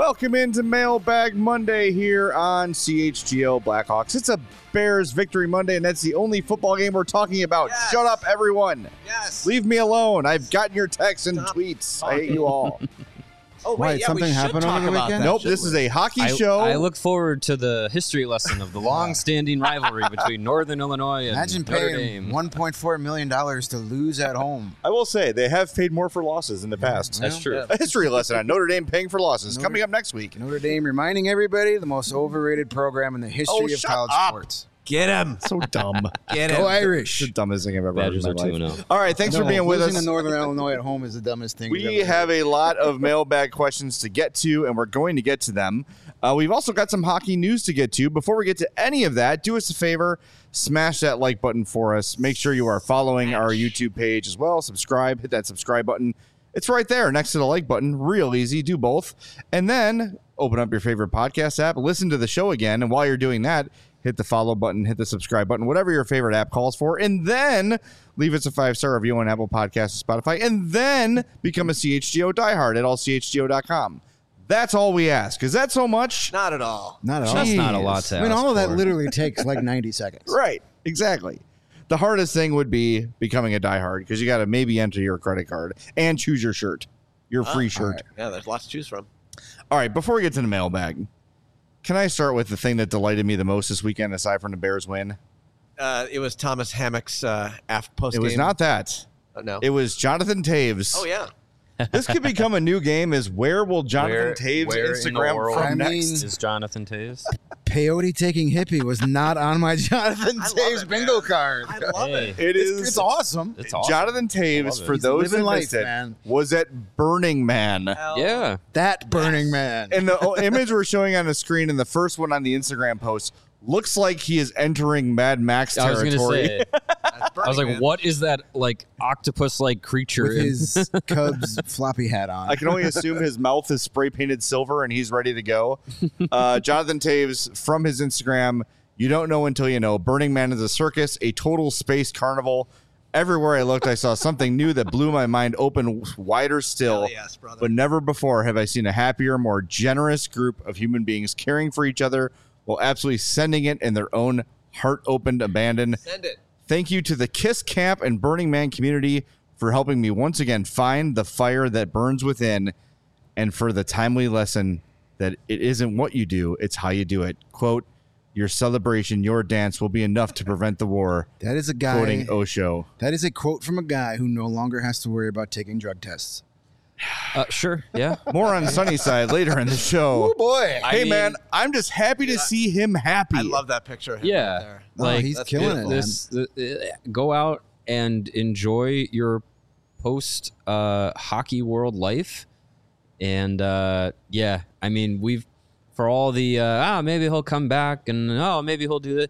Welcome into Mailbag Monday here on CHGO Blackhawks. It's a Bears Victory Monday, and that's the only football game we're talking about. Yes. Shut up, everyone. Yes. Leave me alone. I've gotten your texts and tweets. I hate you all. Oh, Why, wait, yeah, something we should happened talk over the about weekend? that, Nope, shouldn't this is we? a hockey show. I look forward to the history lesson of the long-standing rivalry between Northern Illinois and Imagine Notre paying Dame. $1.4 million to lose at home. I will say, they have paid more for losses in the past. That's true. Yeah. A history lesson on Notre Dame paying for losses coming up next week. Notre Dame reminding everybody the most overrated program in the history of shut college up. sports. Get him. So dumb. Get Go him. Irish. The dumbest thing I've ever Badgers heard are in my life. 2-0. All right, thanks for No, being with losing us. to Northern Illinois at home is the dumbest thing. We have a lot of mailbag questions to get to, and we're going to get to them. We've also got some hockey news to get to. Before we get to any of that, do us a favor, smash that like button for us. Make sure you are following our YouTube page as well. Subscribe, hit that subscribe button. It's right there next to the like button. Real easy. Do both. And then open up your favorite podcast app, listen to the show again. And while you're doing that, hit the follow button, hit the subscribe button, whatever your favorite app calls for, and then leave us a 5-star review on Apple Podcasts and Spotify, and then become a CHGO diehard at allchgo.com. That's all we ask. Is that so much? Not at all. Not at all. That's not a lot to I mean, ask all of that for. literally takes like 90 seconds. Right. Exactly. The hardest thing would be becoming a diehard because you got to maybe enter your credit card and choose your shirt, your free shirt. Yeah, there's lots to choose from. All right. Before we get to the mailbag, can I start with the thing that delighted me the most this weekend aside from the Bears win? It was Thomas Hammock's post It game. was not that. No. It was Jonathan Taves. Oh, yeah. This could become a new game. Is where will Jonathan Taves where in the Instagram world from I next? mean- is Jonathan Taves? Peyote taking hippie was not on my Jonathan I love Taves it, bingo man. card. I love Hey. it. It is. It's awesome. It's awesome. Jonathan I Taves, love it. for He's those living who life, missed it, man. was at Burning Man. That Burning Man. And the image we're showing on the screen and the first one on the Instagram post looks like he is entering Mad Max I was territory. going to say, I was like, what is that like octopus-like creature? with his Cubs floppy hat on. I can only assume his mouth is spray painted silver and he's ready to go. Jonathan Taves from his Instagram. You don't know until you know. Burning Man is a circus, a total space carnival. Everywhere I looked, I saw something new that blew my mind open wider still. Hell yes, brother. But never before have I seen a happier, more generous group of human beings caring for each other while absolutely sending it in their own heart-opened abandon. Send it. Thank you to the KISS Camp and Burning Man community for helping me once again find the fire that burns within, and for the timely lesson that it isn't what you do, it's how you do it. Quote, your celebration, your dance will be enough to prevent the war. That is a guy. Quoting Osho. That is a quote from a guy who no longer has to worry about taking drug tests. Sure, yeah. More on Sunnyside later in the show. Oh boy! I Hey, mean- man, I'm just happy to see him happy. I love that picture of him Yeah. right there. Like, he's that's killing it. beautiful. Man. Go out and enjoy your post hockey world life. And yeah, I mean, we've for all the maybe he'll come back and maybe he'll do that.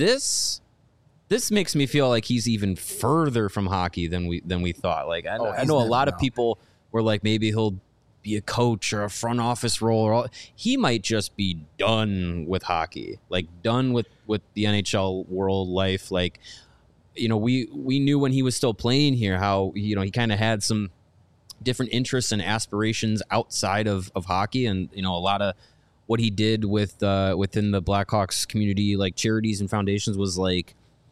This makes me feel like he's even further from hockey than we thought. Like I he's know a never lot of out. people were like maybe he'll be a coach or a front office role or all. He might just be done with hockey, like done with the NHL world life. Like, you know, we knew when he was still playing here how, you know, he kind of had some different interests and aspirations outside of hockey, and, you know, a lot of what he did with within the Blackhawks community, like charities and foundations, was like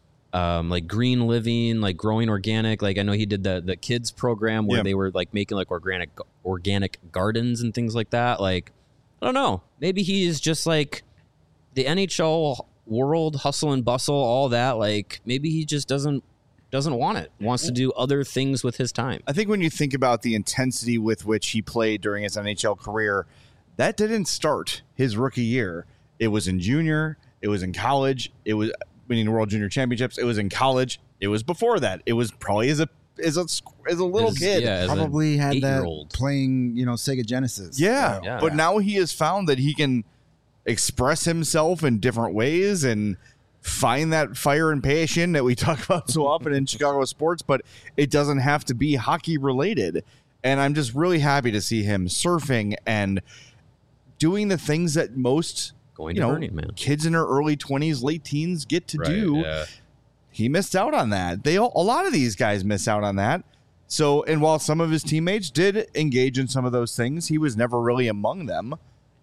green living, like growing organic. Like I know he did the kids program where Yeah. they were like making like organic gardens and things like that. Like, I don't know, maybe he is just like the NHL world, hustle and bustle, all that. Like maybe he just doesn't want it, wants to do other things with his time. I think when you think about the intensity with which he played during his NHL career, that didn't start his rookie year. It was in junior. It was in college. It was winning the World Junior Championships. It was in college. It was before that. It was probably as a little kid. Yeah, as an Probably had that 8-year-old. playing, Sega Genesis. Yeah. Yeah. But now he has found that he can express himself in different ways and find that fire and passion that we talk about so often in Chicago sports, but it doesn't have to be hockey related. And I'm just really happy to see him surfing and doing the things that most Going to Burning Man. kids in their early 20s, late teens get to do. Yeah. He missed out on that. A lot of these guys miss out on that. So, and while some of his teammates did engage in some of those things, he was never really among them.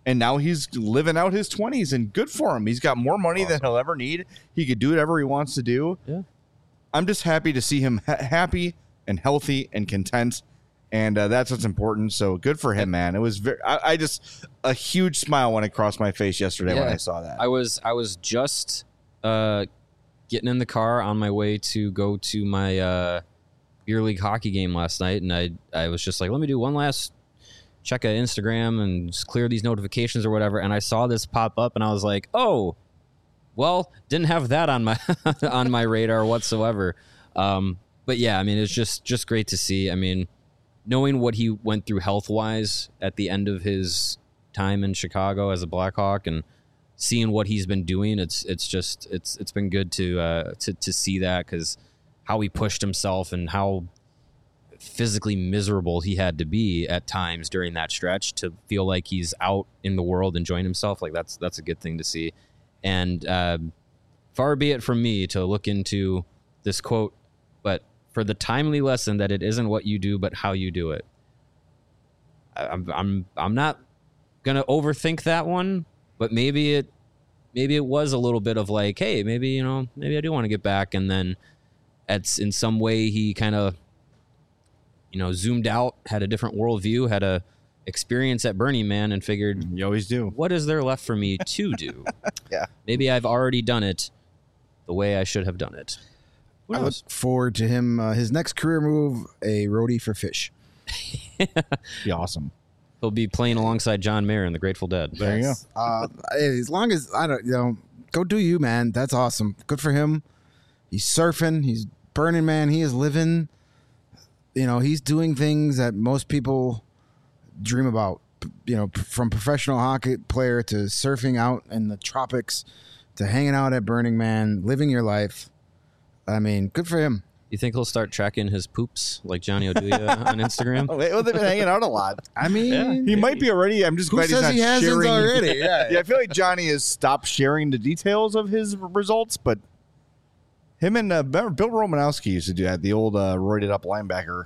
And now he's living out his 20s, and good for him. He's got more money than he'll ever need. He could do whatever he wants to do. Yeah. I'm just happy to see him happy and healthy and content, and that's what's important. So good for him, man. It was I just a huge smile went across my face yesterday when I saw that. I was just getting in the car on my way to go to my beer league hockey game last night, and I was just like, let me do one last check at Instagram and just clear these notifications or whatever, and I saw this pop up, and I was like, oh, well, didn't have that on my on my radar whatsoever. But yeah, I mean, it's just great to see. I mean, knowing what he went through health wise at the end of his time in Chicago as a Blackhawk, and seeing what he's been doing, it's been good to see that, because how he pushed himself and how physically miserable he had to be at times during that stretch to feel like he's out in the world enjoying himself. Like that's a good thing to see. And far be it from me to look into this quote, but for the timely lesson that it isn't what you do, but how you do it. I'm not gonna overthink that one, but maybe it was a little bit of like, hey, maybe I do want to get back, and then in some way he kind of zoomed out, had a different worldview, had a experience at Burning Man, and figured, You always do. what is there left for me to do? Yeah. Maybe I've already done it the way I should have done it. Who I look knows? forward to him. His next career move, a roadie for Fish. Be awesome. He'll be playing alongside John Mayer in the Grateful Dead. There you go. As long as go do you, man. That's awesome. Good for him. He's surfing. He's Burning Man. He is living. He's doing things that most people dream about. From professional hockey player to surfing out in the tropics to hanging out at Burning Man, living your life. I mean, good for him. You think he'll start tracking his poops like Johnny Oduya on Instagram? Well, they've been hanging out a lot. I mean, He might be already. I'm just who glad he's says not he hasn't sharing already? Yeah. I feel like Johnny has stopped sharing the details of his results, but him and Bill Romanowski used to do that. The old roided up linebacker.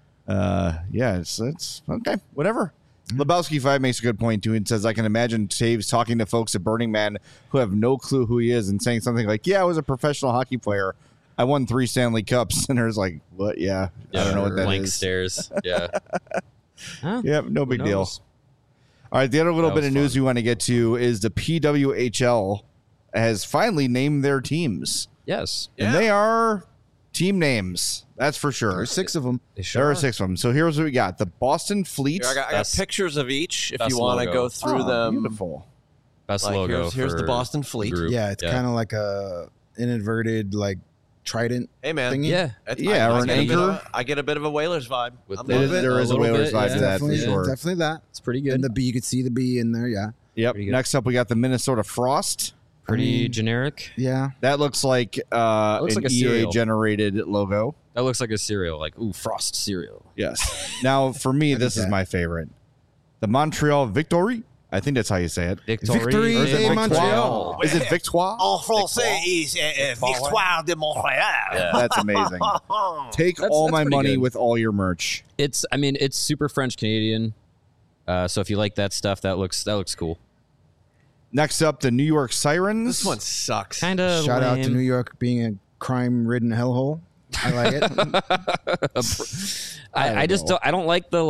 It's okay. Whatever. Lebowski 5 makes a good point too, and says, I can imagine Taves talking to folks at Burning Man who have no clue who he is and saying something like, yeah, I was a professional hockey player. I won 3 Stanley Cups. And there's like, what? Yeah. I don't know what that blank is. stares. Yeah. Huh? Yep, no big Who deal. knows? All right, the other little That bit was of news fun. we want to get to is the PWHL has finally named their teams. Yes. Yeah. And they are team names. That's for sure. There's 6 of them. They sure There are are. 6 of them. So here's what we got. The Boston Fleet. Here, I got Best- pictures of each if best you want to logo. go through Oh, them. Beautiful. Best Like, logo. here's the for Boston Fleet. group. Yeah, it's kind of like a inadverted trident Hey, man. thingy. Yeah. Yeah, or an get a bit of- anchor. I get a bit of a Whalers vibe. With I'm the- loving it. There is a little Whalers bit, vibe yeah. to that for Definitely, sure. definitely that. It's pretty good. And the B, you could see the B in there. Yeah, Yep. Pretty good. Next up, we got the Minnesota Frost. Pretty generic. yeah. That looks like Looks an like a cereal. EA-generated logo. That looks like a cereal. Like, ooh, Frost cereal. Yes. Now, for me, this is that. my favorite. The Montreal Victory. I think that's how you say it. Victory Or is it de Victoire? Montreal. Is it Victoire? En français is Victoire de Montréal. That's amazing. Take all That's my pretty money good. with all your merch. It's super French Canadian. So if you like that stuff, that looks cool. Next up, the New York Sirens. This one sucks. Kind of Shout out to New York being a crime-ridden hellhole. I like it. I just don't. I don't like the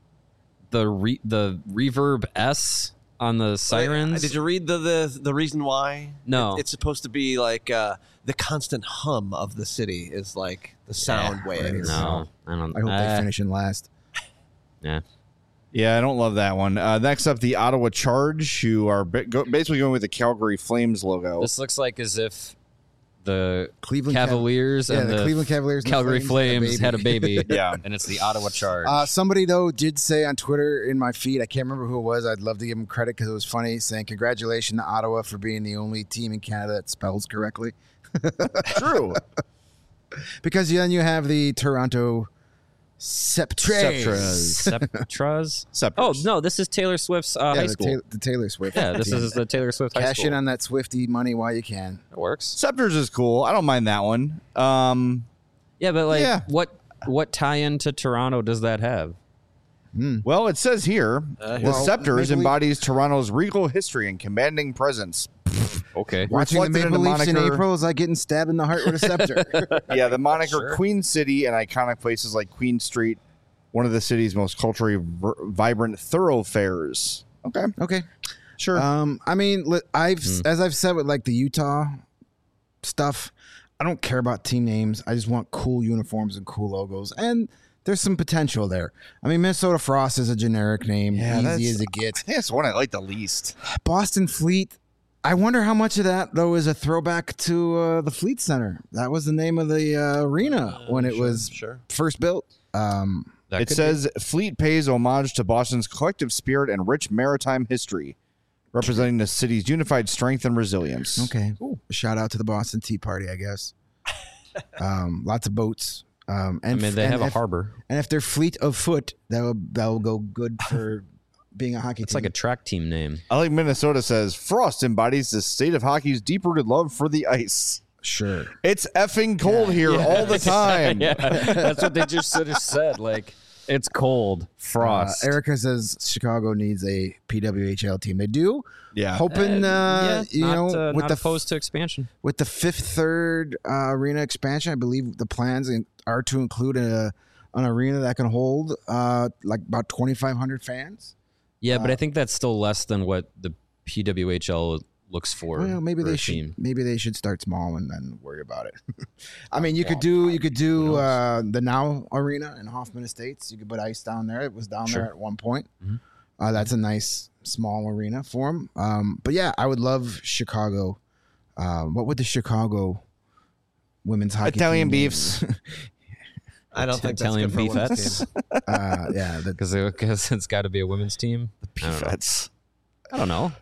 the reverb S on the sirens. Did you read the reason why? No. It's supposed to be like the constant hum of the city is like the sound waves. No, I don't. I hope they finish in last. Yeah. Yeah, I don't love that one. Next up, the Ottawa Charge, who are basically going with the Calgary Flames logo. This looks like as if the Cleveland Cavaliers Yeah, and the Cleveland Cavaliers and the Calgary Flames Flames had a baby. Yeah. And it's the Ottawa Charge. Somebody, though, did say on Twitter in my feed, I can't remember who it was. I'd love to give him credit because it was funny, saying, congratulations to Ottawa for being the only team in Canada that spells correctly. True. Because then you have the Toronto Septres. Septras. Scepters. Oh, no, this is Taylor Swift's high school. The Taylor Swift. Yeah, this is the Taylor Swift high Cash school. in on that Swiftie money while you can. It works. Scepters is cool. I don't mind that one. Yeah, but like, Yeah. what tie-in to Toronto does that have? Well, it says here the Well, Scepters Maple Leaf- embodies Toronto's regal history and commanding presence. Okay. Watching the Reflected in Maple the Leafs in moniker- April is like getting stabbed in the heart with a scepter. Yeah, the moniker Queen City and iconic places like Queen Street, one of the city's most culturally vibrant thoroughfares. Okay, Okay. sure. I mean, as I've said with like the Utah stuff, I don't care about team names. I just want cool uniforms and cool logos, and there's some potential there. I mean, Minnesota Frost is a generic name, easy as it I gets. think that's the one I like the least. Boston Fleet. I wonder how much of that though is a throwback to the Fleet Center. That was the name of the arena when it was first built. It says Fleet pays homage to Boston's collective spirit and rich maritime history, representing the city's unified strength and resilience. Okay. Shout out to the Boston Tea Party, I guess. Lots of boats. And they have a harbor. And if they're fleet of foot, that will go good for being a hockey It's team. like a track team name. I like Minnesota says Frost embodies the state of hockey's deep-rooted love for the ice. Sure. It's effing cold here all the time. Yeah, that's what they just sort of said. Like, it's cold, frost. Erica says Chicago needs a PWHL team. They do. Yeah. Hoping, with not the opposed to expansion. with the third arena expansion, I believe the plans are to include an arena that can hold like about 2,500 fans. Yeah, but I think that's still less than what the PWHL looks for. Well, maybe for they a should. team. Maybe they should start small and then worry about it. I mean, you could do the Now Arena in Hoffman Estates. You could put ice down there. It was down there at one point. That's a nice small arena for them. But yeah, I would love Chicago. What would the Chicago women's hockey Italian team name? beefs. I don't think Italian that's good for women's beefettes? team. Yeah, Because it's got to be a women's team. Beefettes. I don't know.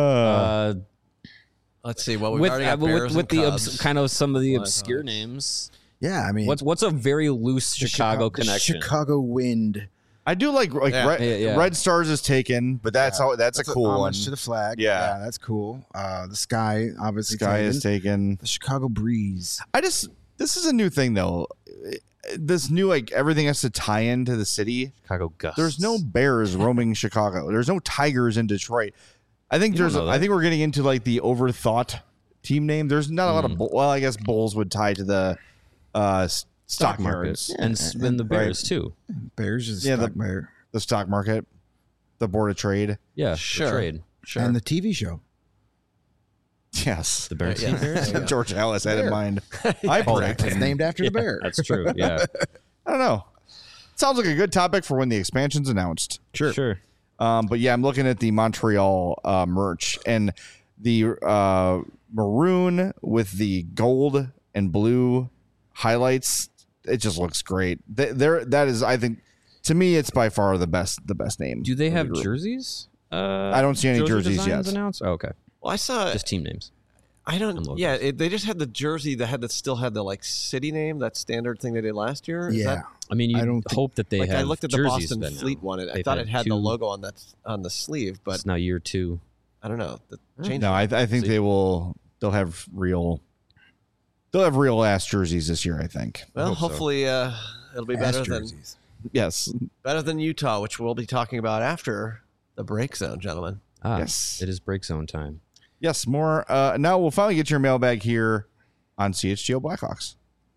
Let's see. Well, we've With already got Bears with and the Cubs. kind of some of the Blackhawks. obscure names. yeah. I mean, What's a very loose the Chicago the connection? Chicago Wind. I do like Yeah. Red Stars is taken, but that's a cool one. Homage to the flag. Yeah. that's cool. The Sky obviously. Sky taken. is taken. The Chicago Breeze. This is a new thing though. This new like everything has to tie into the city. Chicago Gusts. There's no bears roaming Chicago. There's no tigers in Detroit. I think You don't know that. I think we're getting into like the overthought team name. There's not a lot of well, I guess Bulls would tie to the stock market yards. and the Bears too. Bears is Yeah, stock bear. The stock market, the board of trade. Yeah, Sure. the trade. Sure. And the TV show. Yes. The Bears. Yeah. Bears? George Ellis had in mind. I predict. It's named after the bear. That's true. Yeah, I don't know. Sounds like a good topic for when the expansion's announced. sure. But yeah, I'm looking at the Montreal merch and the maroon with the gold and blue highlights. It just looks great. That is, I think, to me, it's by far the best name. Do they of the have group. jerseys? I don't see any jerseys designs yet. announced. Oh, okay, well, I saw. just team names. I don't. and logos. Yeah, they just had the jersey that still had the like city name. That standard thing they did last year. Is Yeah. that, I mean, I you don't think- hope that they like have. I looked at the jerseys Boston then now. Fleet one. I They've thought it had the two- logo on the sleeve, but It's now year 2. I don't know. Change. No, I think they'll have real ass jerseys this year. I think. Well, hope so. hopefully it'll be Ass better than jerseys. Yes. Utah, which we'll be talking about after the break zone, gentlemen. Yes. It is break zone time. Yes. More. Now we'll finally get your mailbag here on CHGO Blackhawks.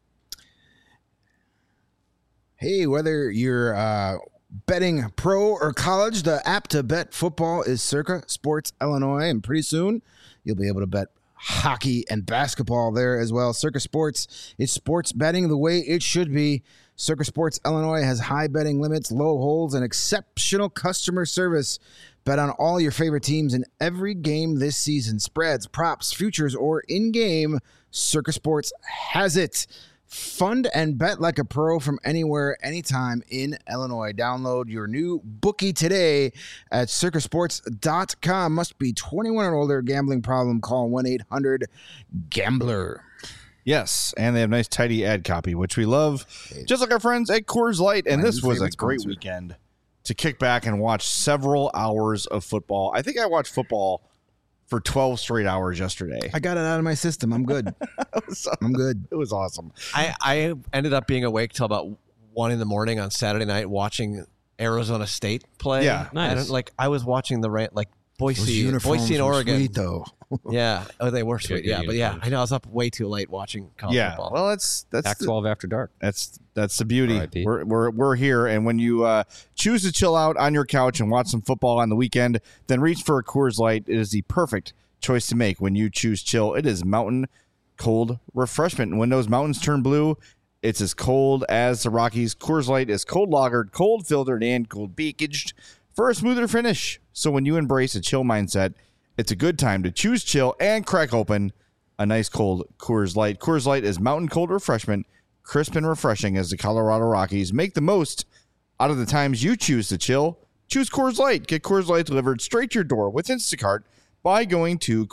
Hey, whether you're betting pro or college, the app to bet football is Circa Sports Illinois, and pretty soon you'll be able to bet hockey and basketball there as well. Circa Sports is sports betting the way it should be. Circa Sports Illinois has high betting limits, low holds, and exceptional customer service. Bet on all your favorite teams in every game this season. Spreads, props, futures, or in-game, Circa Sports has it. Fund and bet like a pro from anywhere, anytime in Illinois. Download your new bookie today at circasports.com. Must be 21 or older. Gambling problem, call 1-800-GAMBLER. Yes, and they have nice, tidy ad copy, which we love, just like our friends at Coors Light. And My this new was a favorite great sponsor. weekend to kick back and watch several hours of football. I think I watched football for 12 straight hours yesterday. I got it out of my system. I'm good. I'm good. It was awesome. I ended up being awake till about 1 a.m. on Saturday night watching Arizona State play. Yeah. Nice. I was watching Those Boise uniforms and were Oregon. sweet, though. Yeah. Oh, they were sweet. good Yeah, but yeah, uniforms. I know I was up way too late watching college Yeah. football. Well, that's Pac-12 after dark. That's the beauty. RIP. We're here, and when you choose to chill out on your couch and watch some football on the weekend, then reach for a Coors Light. It is the perfect choice to make when you choose chill. It is mountain cold refreshment. And when those mountains turn blue, it's as cold as the Rockies. Coors Light is cold lagered, cold filtered, and cold packaged for a smoother finish. So when you embrace a chill mindset, it's a good time to choose chill and crack open a nice cold Coors Light. Coors Light is mountain cold refreshment, crisp and refreshing as the Colorado Rockies. Make the most out of the times you choose to chill. Choose Coors Light. Get Coors Light delivered straight to your door with Instacart by going to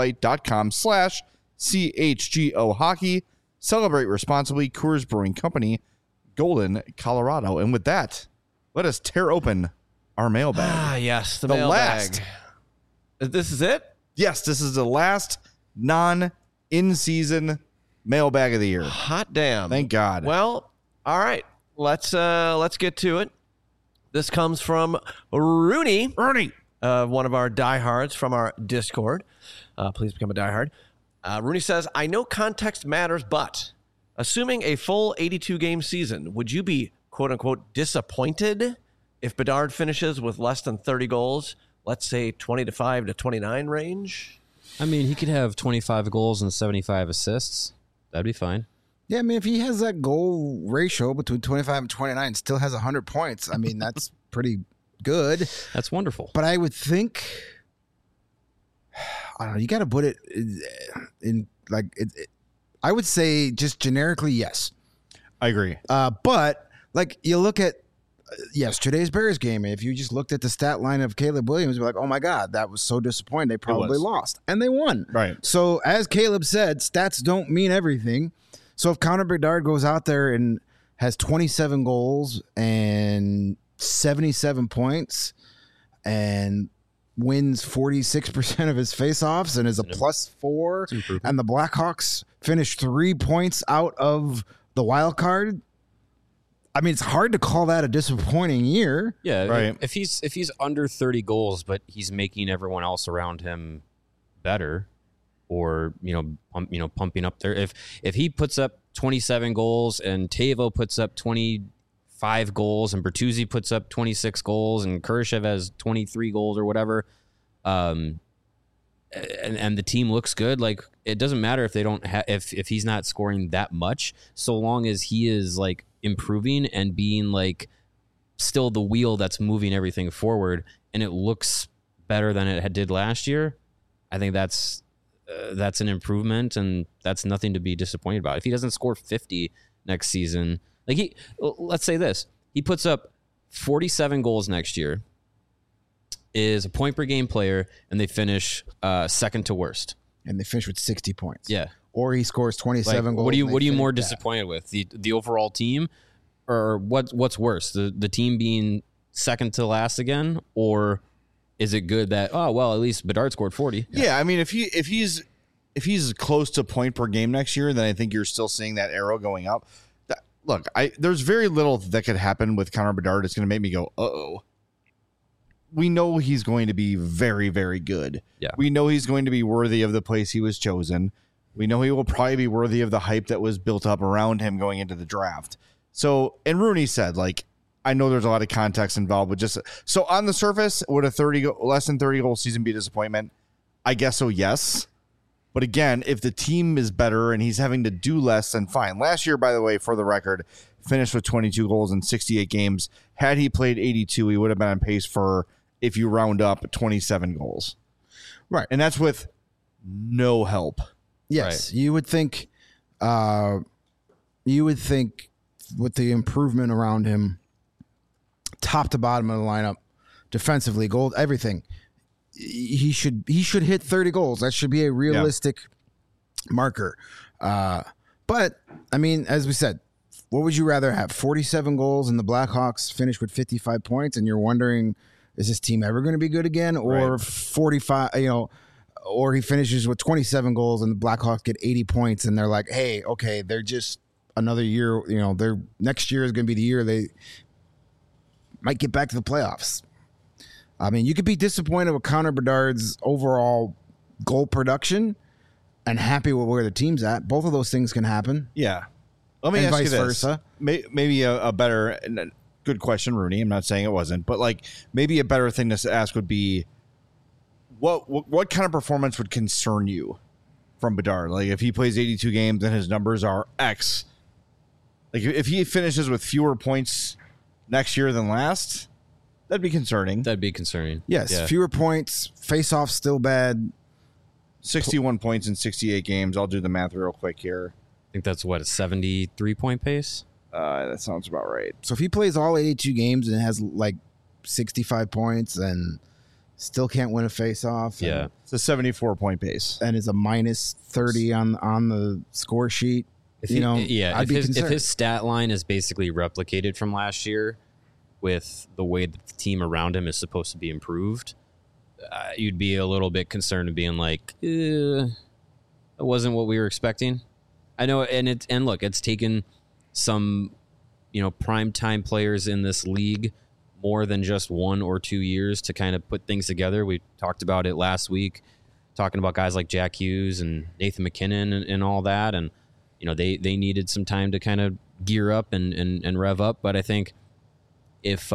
CoorsLight.com/CHGO Hockey. Celebrate responsibly. Coors Brewing Company, Golden, Colorado. And with that, let us tear open our mailbag. Ah, yes, the The mailbag. last. This is it? Yes, this is the last non-in-season mailbag of the year. Hot damn. Thank God. Well, all right. Let's get to it. This comes from Rooney, Ernie. one of our diehards from our Discord. Please become a diehard. Rooney says, I know context matters, but assuming a full 82-game season, would you be, quote-unquote, disappointed if Bedard finishes with less than 30 goals, let's say 25 to 29 range? I mean, he could have 25 goals and 75 assists. That'd be fine. Yeah, I mean, if he has that goal ratio between 25 and 29, still has 100 points, I mean, that's pretty good. That's wonderful. But I would think, I don't know, you got to put it in like, I would say just generically, yes. I agree. But like you look at yesterday's Bears game, if you just looked at the stat line of Caleb Williams, you'd be like, oh my God, that was so disappointing. They probably was. lost. And they won. Right. So as Caleb said, stats don't mean everything. So if Connor Bedard goes out there and has 27 goals and 77 points and wins 46% of his faceoffs and is a +4, and the Blackhawks finish 3 points out of the wild card, I mean, it's hard to call that a disappointing year. Yeah, Right. If he's under 30 goals, but he's making everyone else around him better, or pumping up there. If he puts up 27 goals and Tavo puts up 25 goals and Bertuzzi puts up 26 goals and Kurashev has 23 goals or whatever, and the team looks good, like it doesn't matter if they don't if he's not scoring that much, so long as he is like improving and being like still the wheel that's moving everything forward, and it looks better than it did last year. I think that's an improvement, and that's nothing to be disappointed about. If he doesn't score 50 next season, like let's say this, he puts up 47 goals next year, is a point per game player, and they finish second to worst. And they finish with 60 points. Yeah. Or he scores 27 Like, goals. what are you and they more finish that. disappointed with? The overall team, or what's worse? The team being second to last again, or is it good that at least Bedard scored 40? Yeah, I mean, if he's close to point per game next year, then I think you're still seeing that arrow going up. Look, there's very little that could happen with Connor Bedard. It's going to make me go, uh-oh. We know he's going to be very, very good. Yeah. We know he's going to be worthy of the place he was chosen. We know he will probably be worthy of the hype that was built up around him going into the draft. So, and Rooney said, like, I know there's a lot of context involved, but just so on the surface, would a less than 30 goal season be a disappointment? I guess so, yes. But again, if the team is better and he's having to do less, then fine. Last year, by the way, for the record, finished with 22 goals in 68 games. Had he played 82, he would have been on pace for, if you round up, 27 goals. Right. And that's with no help. Yes, you would think. With the improvement around him, top to bottom of the lineup, defensively, goal, everything, he should hit 30 goals. That should be a realistic marker. But I mean, as we said, what would you rather have? 47 goals and the Blackhawks finish with 55 points, and you're wondering, is this team ever going to be good again? Or 45, or he finishes with 27 goals and the Blackhawks get 80 points, and they're like, hey, okay, they're just another year. Their next year is going to be the year they might get back to the playoffs. I mean, you could be disappointed with Connor Bedard's overall goal production and happy with where the team's at. Both of those things can happen. Yeah. Let me And ask vice you this. versa. Maybe a better, good question, Rooney. I'm not saying it wasn't, but like maybe a better thing to ask would be, what kind of performance would concern you from Bedard? Like if he plays 82 games and his numbers are X, like if he finishes with fewer points next year than last, that'd be concerning. That'd be concerning. Yes, Yeah. fewer points, face-off still bad. 61 points in 68 games. I'll do the math real quick here. I think that's what, a 73-point pace? That sounds about right. So if he plays all 82 games and has like 65 points and still can't win a face-off, Yeah. It's a 74-point pace. and is a minus 30 on the score sheet, If you he- know, yeah, I'd if be his, if concerned. his stat line is basically replicated from last year with the way that the team around him is supposed to be improved, you'd be a little bit concerned of being like, that wasn't what we were expecting. I know, and look, it's taken some, prime time players in this league more than just 1 or 2 years to kind of put things together. We talked about it last week, talking about guys like Jack Hughes and Nathan McKinnon and all that, and they needed some time to kind of gear up and rev up. But I think if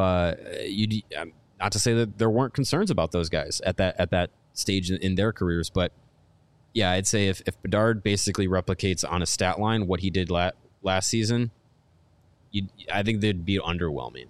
not to say that there weren't concerns about those guys at that stage in their careers, but yeah, I'd say if Bedard basically replicates on a stat line what he did last season, I think they'd be underwhelming.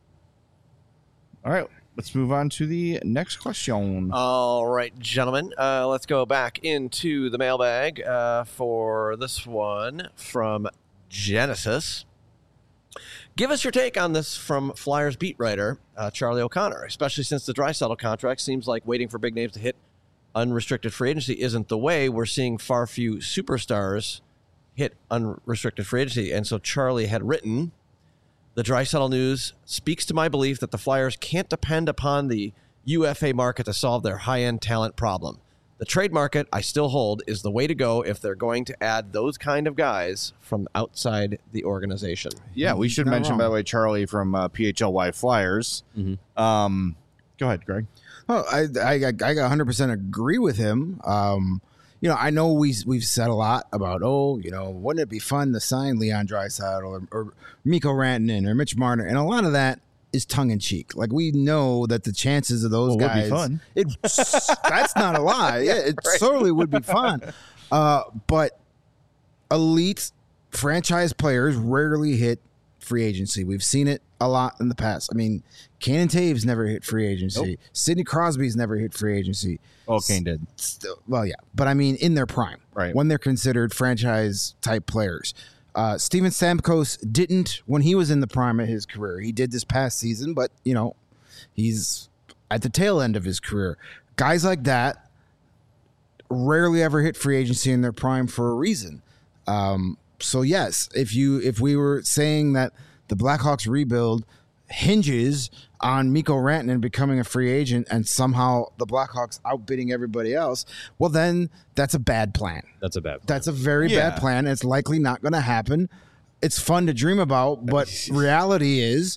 All right, let's move on to the next question. All right, gentlemen, let's go back into the mailbag for this one from Genesis. Give us your take on this from Flyers beat writer Charlie O'Connor, especially since the Draisaitl contract seems like waiting for big names to hit unrestricted free agency isn't the way. We're seeing far few superstars hit unrestricted free agency. And so Charlie had written, the Draisaitl news speaks to my belief that the Flyers can't depend upon the UFA market to solve their high-end talent problem. The trade market, I still hold, is the way to go if they're going to add those kind of guys from outside the organization. Yeah, we should Not mention, wrong. by the way, Charlie from PHLY Flyers. Mhm. Go ahead, Greg. Oh, I 100% agree with him. I know we've said a lot about, wouldn't it be fun to sign Leon Draisaitl or Mikko Rantanen or Mitch Marner, and a lot of that is tongue in cheek. Like we know that the chances of those Well, it would guys, be fun. That's not a lie. Yeah, it certainly would be fun. But elite franchise players rarely hit free agency. We've seen it a lot in the past. I mean, Cannon Taves never hit free agency. Nope. Sidney Crosby's never hit free agency. Oh, Kane did. Still, well, yeah, but I mean, in their prime, Right. when they're considered franchise type players. Steven Stamkos didn't when he was in the prime of his career. He did this past season, but he's at the tail end of his career. Guys like that rarely ever hit free agency in their prime for a reason. So yes, if we were saying that the Blackhawks rebuild hinges on Mikko Rantanen becoming a free agent and somehow the Blackhawks outbidding everybody else, well then that's a bad plan. That's a bad plan. That's a very Yeah. bad plan. It's likely not going to happen. It's fun to dream about, but reality is,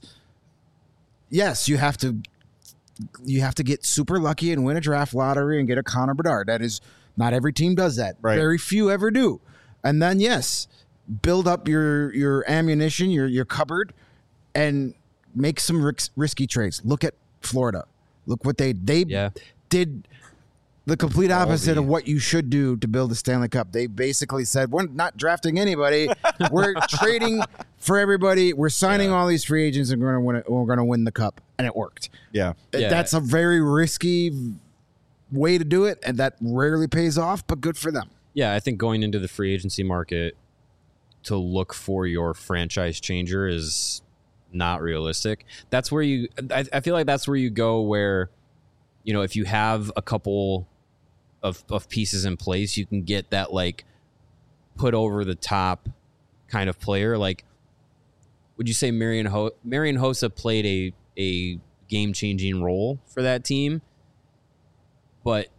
yes, you have to get super lucky and win a draft lottery and get a Connor Bedard. That is not every team does that. Right. Very few ever do. And then yes, build up your ammunition, your cupboard, and make some risky trades. Look at Florida. Look what they Yeah. did. The complete opposite the- of what you should do to build a Stanley Cup. They basically said, we're not drafting anybody. We're trading for everybody. We're signing all these free agents and we're going to win the cup. And it worked. Yeah. Yeah. That's a very risky way to do it. And that rarely pays off, but good for them. Yeah, I think going into the free agency market to look for your franchise changer is not realistic. That's where I feel like that's where you go where, if you have a couple of pieces in place, you can get that like put over the top kind of player. Like, would you say Marian Hossa played a game changing role for that team? But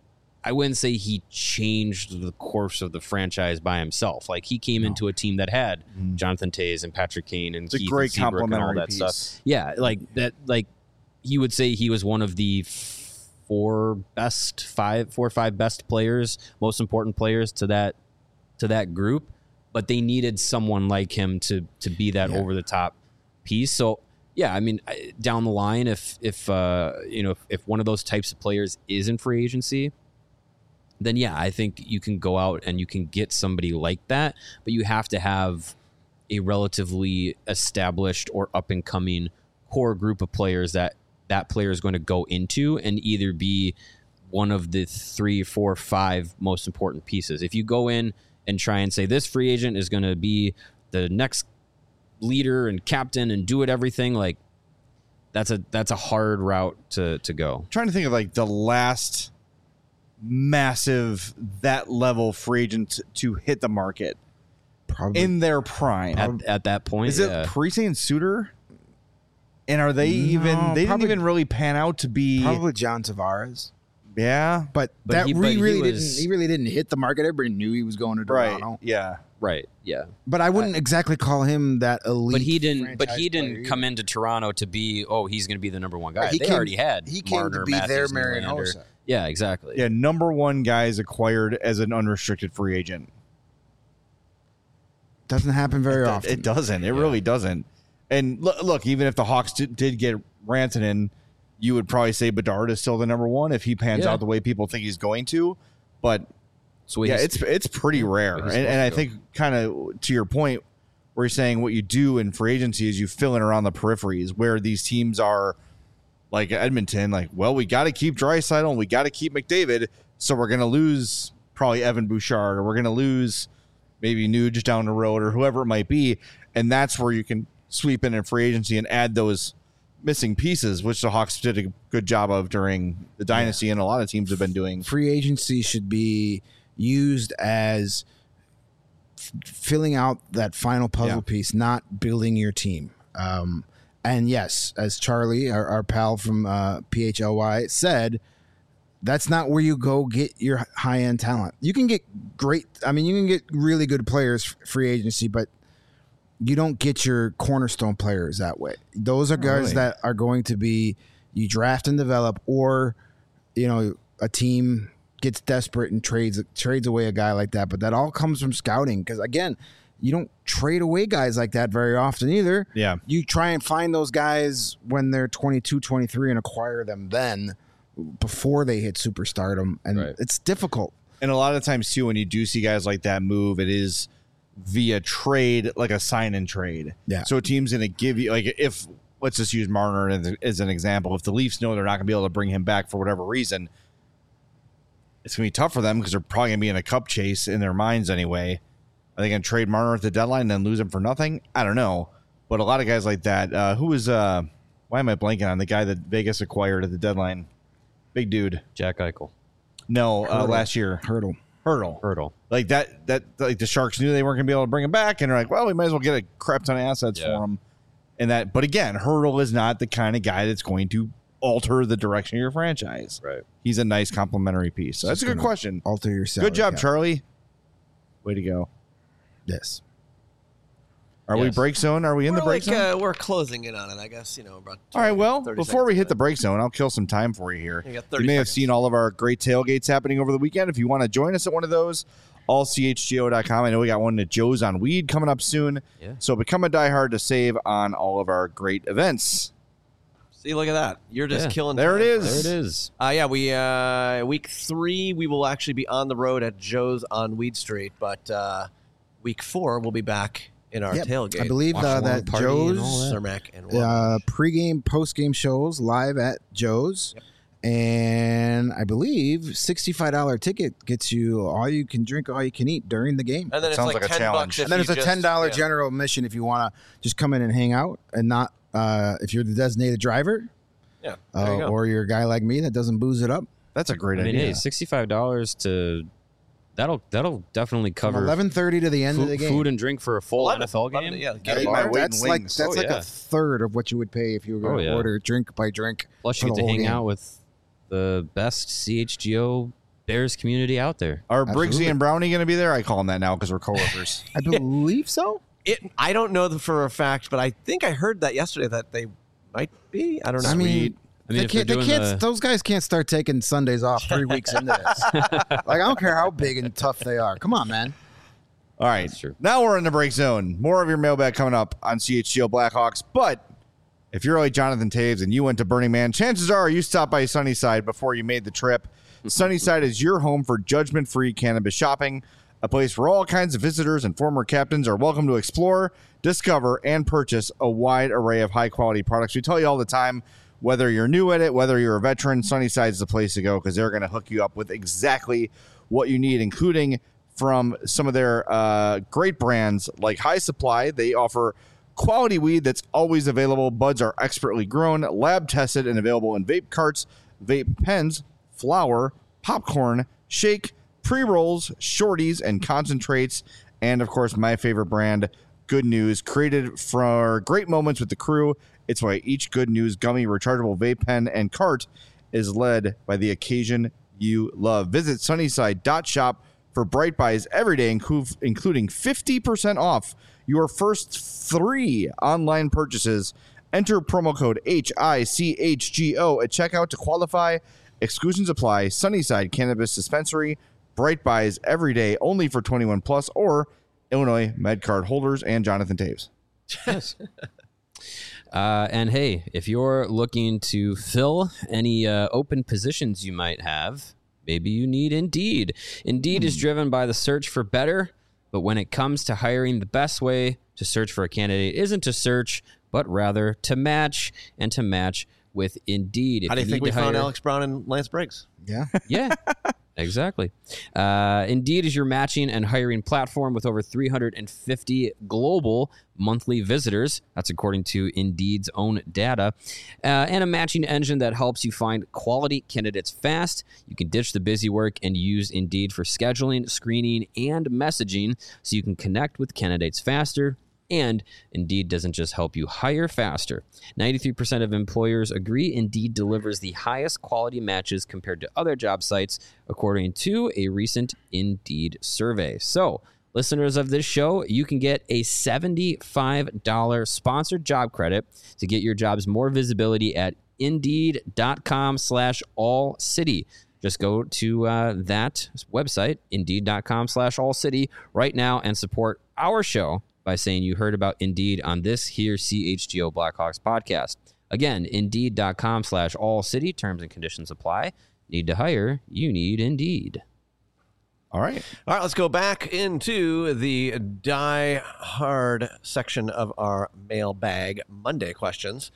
I wouldn't say he changed the course of the franchise by himself. Like he came into a team that had Jonathan Tays and Patrick Kane and It's a Keith great and Seabrook and all complimentary that piece. stuff. Yeah, like that. Like he would say he was one of the four or five best players, most important players to that group. But they needed someone like him to be that over the top piece. So yeah, I mean, down the line, if one of those types of players is in free agency, then yeah, I think you can go out and you can get somebody like that, but you have to have a relatively established or up and coming core group of players that player is going to go into and either be one of the 3, 4, 5 most important pieces. If you go in and try and say this free agent is going to be the next leader and captain and do it everything, like that's a hard route to go. I'm trying to think of like the last massive that level free agent to hit the market Probably. in their prime. At that point, Is it Parise and Suter? And are they even? They didn't even really pan out to be. Probably John Tavares. Yeah, But he really didn't hit the market. Everybody knew he was going to right. Toronto. Yeah, right? Yeah, But I wouldn't exactly call him that elite. but he didn't. But franchise he didn't player come into Toronto to be. Oh, he's going to be the number one guy. Right, he They came- already had. He came Marner, to be Matthews, their Nylander. Marianosa. Yeah, exactly. yeah. Number one guys acquired as an unrestricted free agent. Doesn't happen very often. It doesn't. It really doesn't. And look, even if the Hawks did get Rantanen, you would probably say Bedard is still the number one if he pans Yeah. out the way people think he's going to. But So yeah, he's- it's pretty rare. he's And I supposed to think kind of to your point, where you're saying what you do in free agency is you fill in around the peripheries where these teams are like Edmonton, like, well, we got to keep Draisaitl and we got to keep McDavid. So we're going to lose probably Evan Bouchard, or we're going to lose maybe Nuge down the road, or whoever it might be. And that's where you can sweep in free agency and add those missing pieces, which the Hawks did a good job of during the dynasty, and a lot of teams have been doing. Free agency should be used as filling out that final puzzle piece, not building your team. And yes, as Charlie, our pal from PHLY, said, that's not where you go get your high end talent. You can get you can get really good players free agency, but you don't get your cornerstone players that way. Those are guys really. that are going to be you draft and develop, or a team gets desperate and trades away a guy like that. But that all comes from scouting, because again, you don't trade away guys like that very often either. Yeah. You try and find those guys when they're 22, 23 and acquire them then before they hit superstardom, and it's difficult. And a lot of times too, when you do see guys like that move, it is via trade, like a sign and trade. Yeah. So a team's going to give you, like, if let's just use Marner as an example. If the Leafs know they're not going to be able to bring him back for whatever reason, it's going to be tough for them because they're probably going to be in a cup chase in their minds anyway. Are they going to trade Marner at the deadline and then lose him for nothing? I don't know. But a lot of guys like that. Who was? Why am I blanking on the guy that Vegas acquired at the deadline? Big dude. Jack Eichel. No, last year. Hurdle. Like that like the Sharks knew they weren't going to be able to bring him back, and they're like, well, we might as well get a crap ton of assets for him. And that, but again, Hurdle is not the kind of guy that's going to alter the direction of your franchise. Right. He's a nice complementary piece. So that's a good question. Alter your salary Good job, cap. Charlie. Way to go. Yes. Are we Yes. break zone? Are we in the break zone? We're closing in on it, I guess. About All right, well, 30 before we seconds hit the left. break zone, I'll kill some time for you here. You got You 30 may have seconds. seen all of our great tailgates happening over the weekend. If you want to join us at one of those, allchgo.com. I know we got one at Joe's on Weed coming up soon. Yeah. So become a diehard to save on all of our great events. See, look at that. You're just Yeah. killing There time it for is. us. There it is. Week 3, we will actually be on the road at Joe's on Weed Street, but week 4, we'll be back in our Yep. tailgate. I believe Watch along that party and all Joe's that. Cermak and Wabash. pregame, postgame shows live at Joe's. And I believe $65 ticket gets you all you can drink, all you can eat during the game. And then it's sounds like like a $10 challenge. if And then you there's a just- $10 yeah. general admission if you want to just come in and hang out and not if you're the designated driver Yeah, there you go. or you're a guy like me that doesn't booze it up. That's a great I mean, idea. hey, $65 to that'll definitely From cover 11:30 to the end of the game. food and drink for a full 11, NFL game. 11, yeah, At get a it. bar. Weight That's and like wings. that's Oh, like yeah. a third of what you would pay if you were going to yeah. order drink by drink. Plus, for you get the to whole hang game. out with the best CHGO Bears community out there. Are Absolutely. Briggsy and Brownie going to be there? I call them that now because we're coworkers. I believe so. I don't know for a fact, but I think I heard that yesterday that they might be. I don't know. I mean, I mean, they if they're can't. doing the- Those guys can't start taking Sundays off 3 weeks into this. Like, I don't care how big and tough they are. Come on, man. All right. That's true. Now we're in the break zone. More of your mailbag coming up on CHGO Blackhawks. But if you're like Jonathan Taves and you went to Burning Man, chances are you stopped by Sunnyside before you made the trip. Sunnyside is your home for judgment-free cannabis shopping, a place where all kinds of visitors and former captains are welcome to explore, discover, and purchase a wide array of high-quality products. We tell you all the time, whether you're new at it, whether you're a veteran, Sunnyside's the place to go because they're going to hook you up with exactly what you need, including from some of their great brands like High Supply. They offer quality weed that's always available. Buds are expertly grown, lab tested, and available in vape carts, vape pens, flour, popcorn, shake, pre-rolls, shorties, and concentrates. And, of course, my favorite brand, Good News, created for great moments with the crew. It's why each Good News gummy rechargeable vape pen and cart is led by the occasion you love. Visit sunnyside.shop for bright buys every day, including 50% off your first 3 online purchases. Enter promo code HICHGO at checkout to qualify. Exclusions apply. Sunnyside Cannabis Dispensary. Bright buys every day, only for 21 plus or Illinois MedCard holders and Jonathan Taves. Yes. And hey, if you're looking to fill any open positions you might have, maybe you need Indeed. Indeed is driven by the search for better, but when it comes to hiring, the best way to search for a candidate isn't to search, but rather to match, and to match with Indeed. If How do you think need we to found hire- Alex Brown and Lance Briggs? Yeah. Yeah, exactly. Indeed is your matching and hiring platform with over 350 global monthly visitors. That's according to Indeed's own data. And a matching engine that helps you find quality candidates fast. You can ditch the busy work and use Indeed for scheduling, screening, and messaging so you can connect with candidates faster. And Indeed doesn't just help you hire faster. 93% of employers agree Indeed delivers the highest quality matches compared to other job sites, according to a recent Indeed survey. So, listeners of this show, you can get a $75 sponsored job credit to get your jobs more visibility at Indeed.com/allcity. Just go to that website, Indeed.com/allcity right now and support our show by saying you heard about Indeed on this here CHGO Blackhawks podcast. Again, Indeed.com/allcity. Terms and conditions apply. Need to hire? You need Indeed. All right. All right, let's go back into the Die Hard section of our mailbag Monday questions.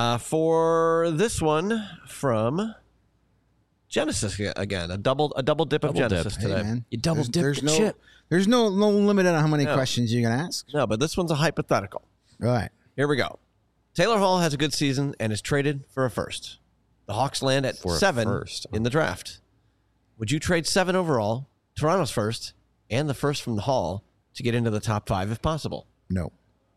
For this one from Genesis again, a double dip of Genesis Hey, today. man. You double dip There's the no, chip. There's no limit on how many No. questions you can ask. No, but this one's a hypothetical. All right. Here we go. Taylor Hall has a good season and is traded for a first. The Hawks land at For a 7 first. in the draft. Would you trade 7 overall, Toronto's first, and the first from the Hall to get into the top 5 if possible? No.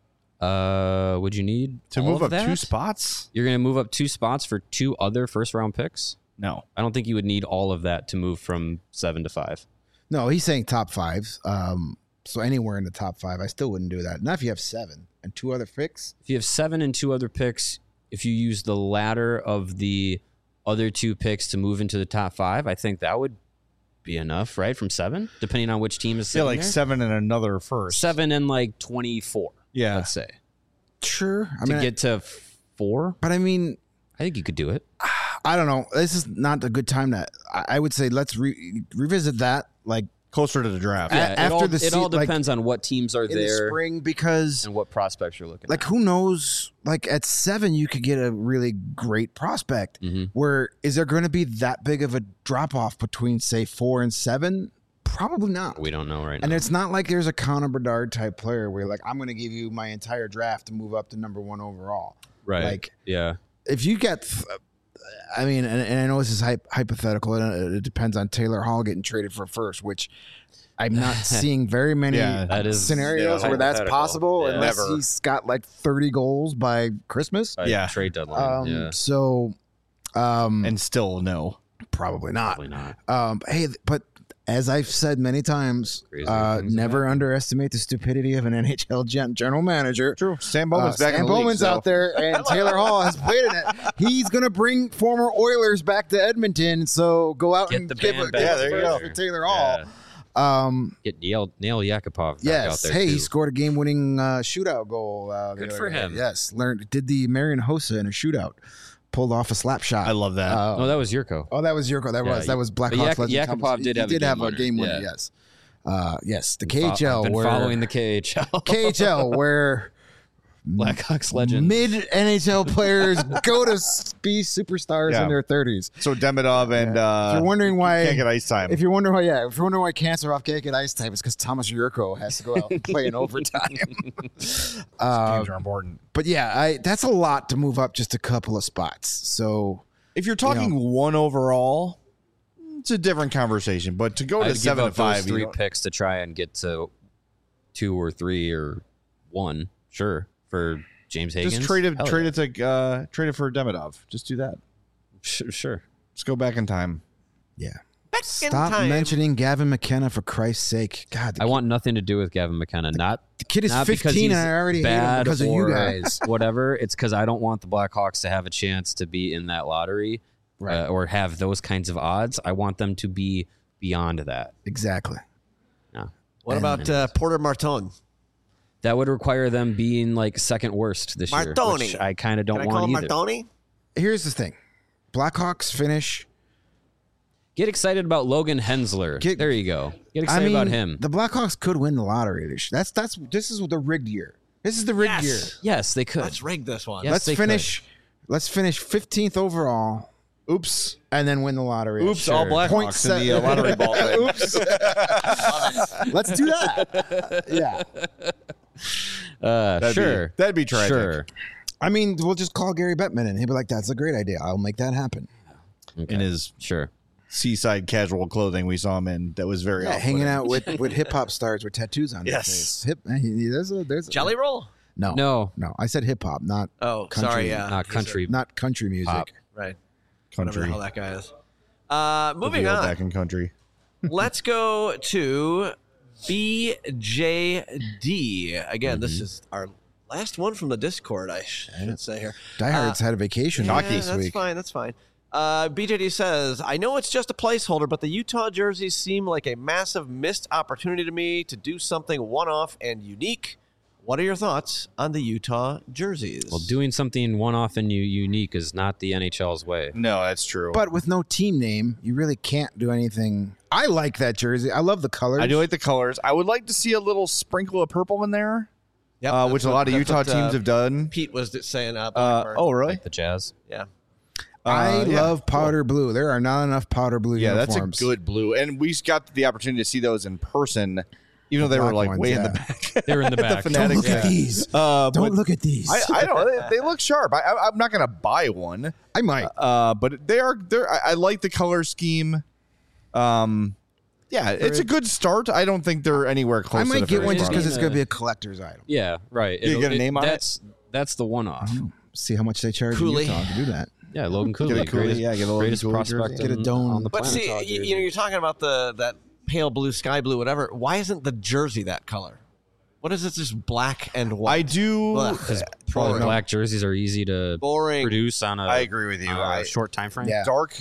Would you need To all move of up 2 that? spots? You're going to move up 2 spots for 2 other first round picks? No. I don't think you would need all of that to move from 7 to 5. No, he's saying top 5. So anywhere in the top 5, I still wouldn't do that. Not if you have 7 and 2 other picks. If you have 7 and 2 other picks, if you use the latter of the other 2 picks to move into the top 5, I think that would be enough, right? From 7, depending on which team is Yeah, sitting like there. 7 and another first. 7 and like 24, Yeah. let's say. Sure. I To mean, get to 4, but I mean, I think you could do it. I don't know. This is not a good time to. I would say let's revisit that like Closer to the draft. Yeah. After the it all like, depends on what teams are in the there spring because and what prospects you're looking like at. who knows? Like at 7, you could get a really great prospect. Mhm. Where is there going to be that big of a drop off between say 4 and 7? Probably not. We don't know right And now. it's not like there's a Connor Bedard type player where like I'm going to give you my entire draft to move up to number 1 overall. Right. Like yeah. if you get, I mean, and I know this is hypothetical, and it depends on Taylor Hall getting traded for first, which I'm not seeing very many Yeah, that is scenarios yeah, where that's hypothetical. possible Yeah. unless Never. he's got like 30 goals by Christmas. By Yeah. Trade deadline. yeah. So, And still no. Probably not. Probably not. Hey, but as I've said many times, Crazy things never underestimate the stupidity of an NHL general manager. True. Sam Bowman's back in Sam the league, Bowman's so- out there, and Taylor Hall has played in it. He's going to bring former Oilers back to Edmonton, so go out Get and the give band a back Yeah, there you first go. for Taylor Hall. Get Neil Yakupov back out Yes. there Hey, too. he scored a game-winning shootout goal. The Good other for day. him. Yes. Did the Marian Hossa in a shootout. Pulled off a slap shot. I love that. No, that was Yurko. Oh, that was Yurko. That Yeah, was but Blackhawks legend. Yakupov Thomas. did He have a did game have a winner. game winner. Yeah. Yes. The I've KHL. been where following the KHL. KHL where Blackhawks legend. mid NHL players go to be superstars Yeah. in their 30s. So Demidov and If you're wondering why, can't get ice time. if you're wondering why Cancerov can't get ice time, it's because Thomas Yurko has to go out and play in overtime. Games are important. But yeah, that's a lot to move up just a couple of spots. So If you're talking one overall, it's a different conversation. But to go I'd to give 7 to up those 5, you 3 don't- picks to try and get to 2 or 3 or 1. Sure, for James Higgins. just trade it. Hell Trade yeah. it to trade it for Demidov. Just do that. Sure. Just go back in time. yeah. Back in Stop time. mentioning Gavin McKenna for Christ's sake. God, I want nothing to do with Gavin McKenna. Not the kid is not because 15 he's and I already hate him bad because of you or guys. whatever. It's because I don't want the Blackhawks to have a chance to be in that lottery, Right. or have those kinds of odds. I want them to be beyond that. Exactly. No. What about Porter Martin? That would require them being like second worst this year, Martoni. which I kind of don't Can I call want him either. Martoni? Here's the thing. Blackhawks finish. Get excited about Logan Hensler. There you go. Get excited about him. The Blackhawks could win the lottery this year. This is the rigged year. This is the rigged year. Yes, they could. Let's rig this one. Yes, Let's they finish. Let's finish 15th overall. Oops. And then win the lottery. Oops. All Point Blackhawks in the lottery ball. Oops. Let's do that. Yeah. Sure. That'd be tragic. Sure. I mean, we'll just call Gary Bettman and he'll be like, "That's a great idea. I'll make that happen." Okay. In his Sure. seaside casual clothing we saw him in, that was very Yeah, off-putting. hanging out with hip hop stars with tattoos on Yes. their face. There's a Jelly roll? No, No, I said hip hop, not Oh, Country. sorry. Yeah. not country. not country music. Pop. Right. Country. Whatever the hell that guy is. Moving Reveal on. back in country. Let's go to BJD. Again, this is our last one from the Discord, I should say here. Diehards had a vacation Yeah, this that's week. fine. That's fine. BJD says, I know it's just a placeholder, but the Utah jerseys seem like a massive missed opportunity to me to do something one-off and unique. What are your thoughts on the Utah jerseys? Well, doing something one-off and unique is not the NHL's way. No, that's true. But with no team name, you really can't do anything. I like that jersey. I love the colors. I do like the colors. I would like to see a little sprinkle of purple in there, Yep, which that's a lot of that's Utah what, teams have done. Pete was saying. Blackburn. Oh, really? The Jazz. Yeah. I Yeah. love powder blue. There are not enough powder blue Yeah, uniforms. that's a good blue. And we got the opportunity to see those in person, even though they were black like ones, way in yeah. the back. They're in the back. Don't Fanatics, look at yeah. these. But Don't look at these. I don't. They look sharp. I'm not gonna buy one. I might. But they're. I like the color scheme. Yeah, it's a good start. I don't think they're anywhere close. I might to the get one finish just line. because it's going to be a collector's item. Yeah, right. You get a name on it? That's the one-off. See how much they charge in Cooley. Utah to do that. Yeah, Logan Cooley. Get a Cooley, greatest, yeah, get a Logan greatest Cooley prospect jersey. Get a dome. on the But planet. see, you're talking about that pale blue, sky blue, whatever. Why isn't the jersey that color? What is it? Just black and white. I do. Ugh. Probably Boring. black jerseys are easy to Boring. produce on a I agree with you. short time frame. Yeah. Dark,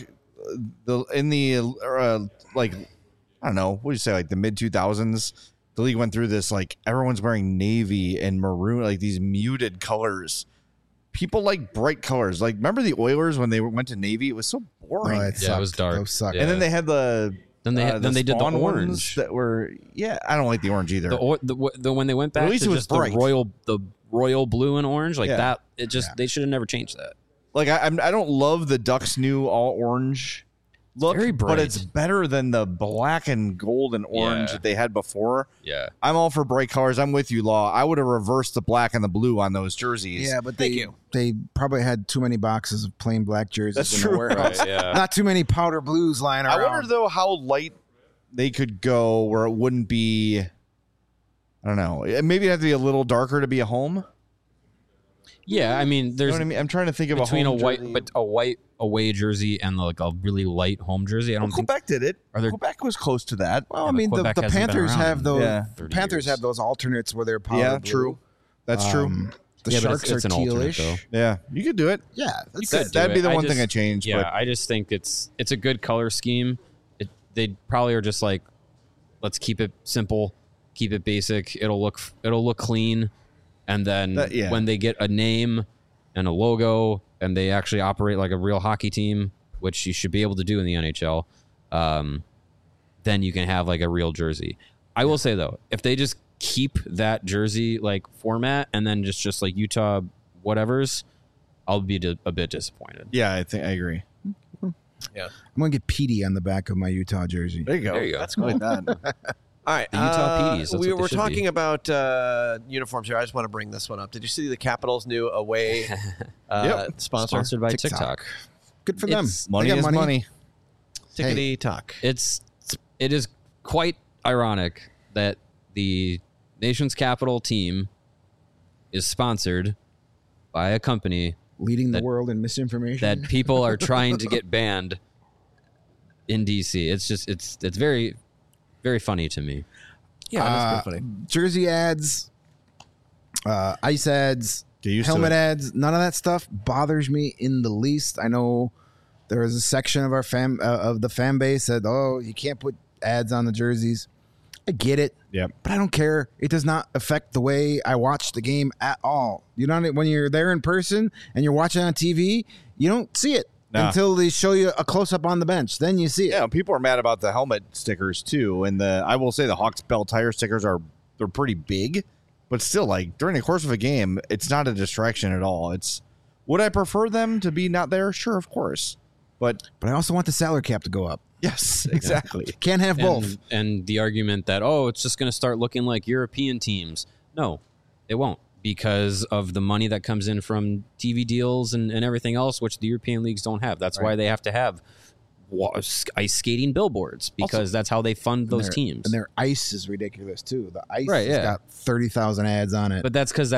like I don't know. What do you say? Like the mid 2000s, the league went through this. Like everyone's wearing navy and maroon, like these muted colors. People like bright colors. Like remember the Oilers when they went to navy? It was so boring. Oh, Yeah, it was sucked. dark. Those suck. Yeah. And then they had the Then they then they did the spawn ones orange. that were I don't like the orange either. The when they went back At least to it was just the bright. royal blue and orange like Yeah. that. It just they should have never changed that. Like I don't love the Ducks' new all orange look, very but bright. it's better than the black and gold and orange Yeah. that they had before. Yeah. I'm all for bright colors. I'm with you, Law. I would have reversed the black and the blue on those jerseys. Yeah, but Thank they you. they probably had too many boxes of plain black jerseys That's in true. the warehouse. Right, yeah. Not too many powder blues lying I around. wonder though how light they could go where it wouldn't be. I don't know. Maybe it'd have to be a little darker to be a home. Yeah, I mean, You there's know what I mean? I'm trying to think of between a a home white, jersey. but a white away jersey and like a really light home jersey. I don't think. Quebec did it. Are there- Quebec was close to that. Well, Yeah, I but mean, the Quebec hasn't been Panthers around have in those. Yeah. 30 Panthers years. have those alternates where they're powder Yeah, blue. true. That's true. The Yeah, but Sharks it's are an alternate, tealish. though. Yeah, you could do it. Yeah, that's could it. do That'd be it. the I one thing just- I changed. Yeah, but I just think it's a good color scheme. They probably are just like, let's keep it simple, keep it basic. It'll look clean, and then Yeah. when they get a name and a logo and they actually operate like a real hockey team, which you should be able to do in the NHL, then you can have like a real jersey. I will say though, if they just keep that jersey like format and then just like Utah whatever's, I'll be a bit disappointed. yeah, I think I agree. I'm gonna get Petey on the back of my Utah jersey. There you go. There you go. That's cool. All right, The Utah Petees, that's what they we're should talking be. about uniforms here. I just want to bring this one up. Did you see the Capitals' new away sponsor? Sponsored by TikTok. TikTok. Good for them. It's- Money They got is money. Tickety talk. It is quite ironic that the nation's capital team is sponsored by a company Leading the That- world in misinformation. that people are trying to get banned in DC. It's just it's very very funny to me. Yeah, that's pretty funny. Jersey ads, ice ads, Get used to helmet it. ads. None of that stuff bothers me in the least. I know there was a section of our of the fan base that you can't put ads on the jerseys. I get it. Yep. But I don't care. It does not affect the way I watch the game at all. You know, when you're there in person and you're watching on TV, you don't see it Nah. until they show you a close up on the bench. Then you see it. Yeah, people are mad about the helmet stickers too, and I will say the Hawks Bell tire stickers they're pretty big, but still, like during the course of a game, it's not a distraction at all. Would I prefer them to be not there? Sure, of course, but But I also want the salary cap to go up. yes, exactly. Can't have both. And the argument that it's just going to start looking like European teams. No, it won't, because of the money that comes in from TV deals and everything else, which the European leagues don't have. That's why they have to have ice skating billboards, because that's how they fund those teams. And their ice is ridiculous too. The ice Right, has yeah. got 30,000 ads on it. But that's because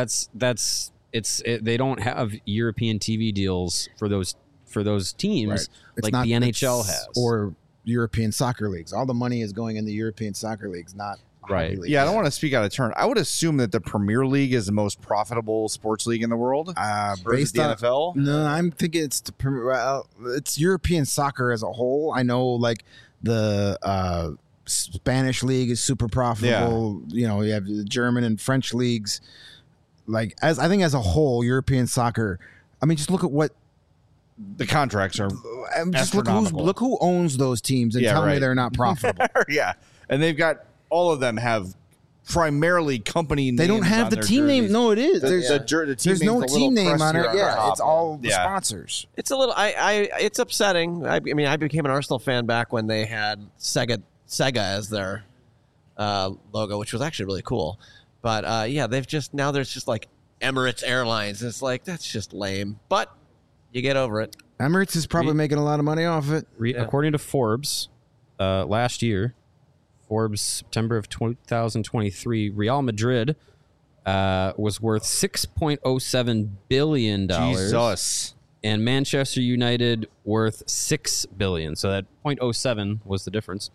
they don't have European TV deals for those teams Right. It's like not- the NHL it's- has. or European soccer leagues. All the money is going in the European soccer leagues, not Right. hockey leagues. Yeah, I don't want to speak out of turn. I would assume that the Premier League is the most profitable sports league in the world. Or is it Based the on NFL? No, I'm thinking it's European soccer as a whole. I know like the Spanish league is super profitable. You know, you have the German and French leagues. Like I think as a whole, European soccer. I mean, just look at what. The contracts are Just Astronomical. look who owns those teams and Yeah, tell me right. they're not profitable. yeah, and they've got all of them have primarily company names. They don't have on the their team name. jerseys. No, it is. The There's team there's no name's a little team name on crest it. here Yeah, top. it's all the Yeah. sponsors. It's a little. It's upsetting. I mean, I became an Arsenal fan back when they had Sega as their logo, which was actually really cool. But yeah, they've just now there's just like Emirates Airlines. It's like that's just lame. But you get over it. Emirates is probably making a lot of money off it. According to Forbes, last year, Forbes September of 2023, Real Madrid was worth $6.07 billion. Jesus. And Manchester United worth $6 billion. So that 0.07 was the difference.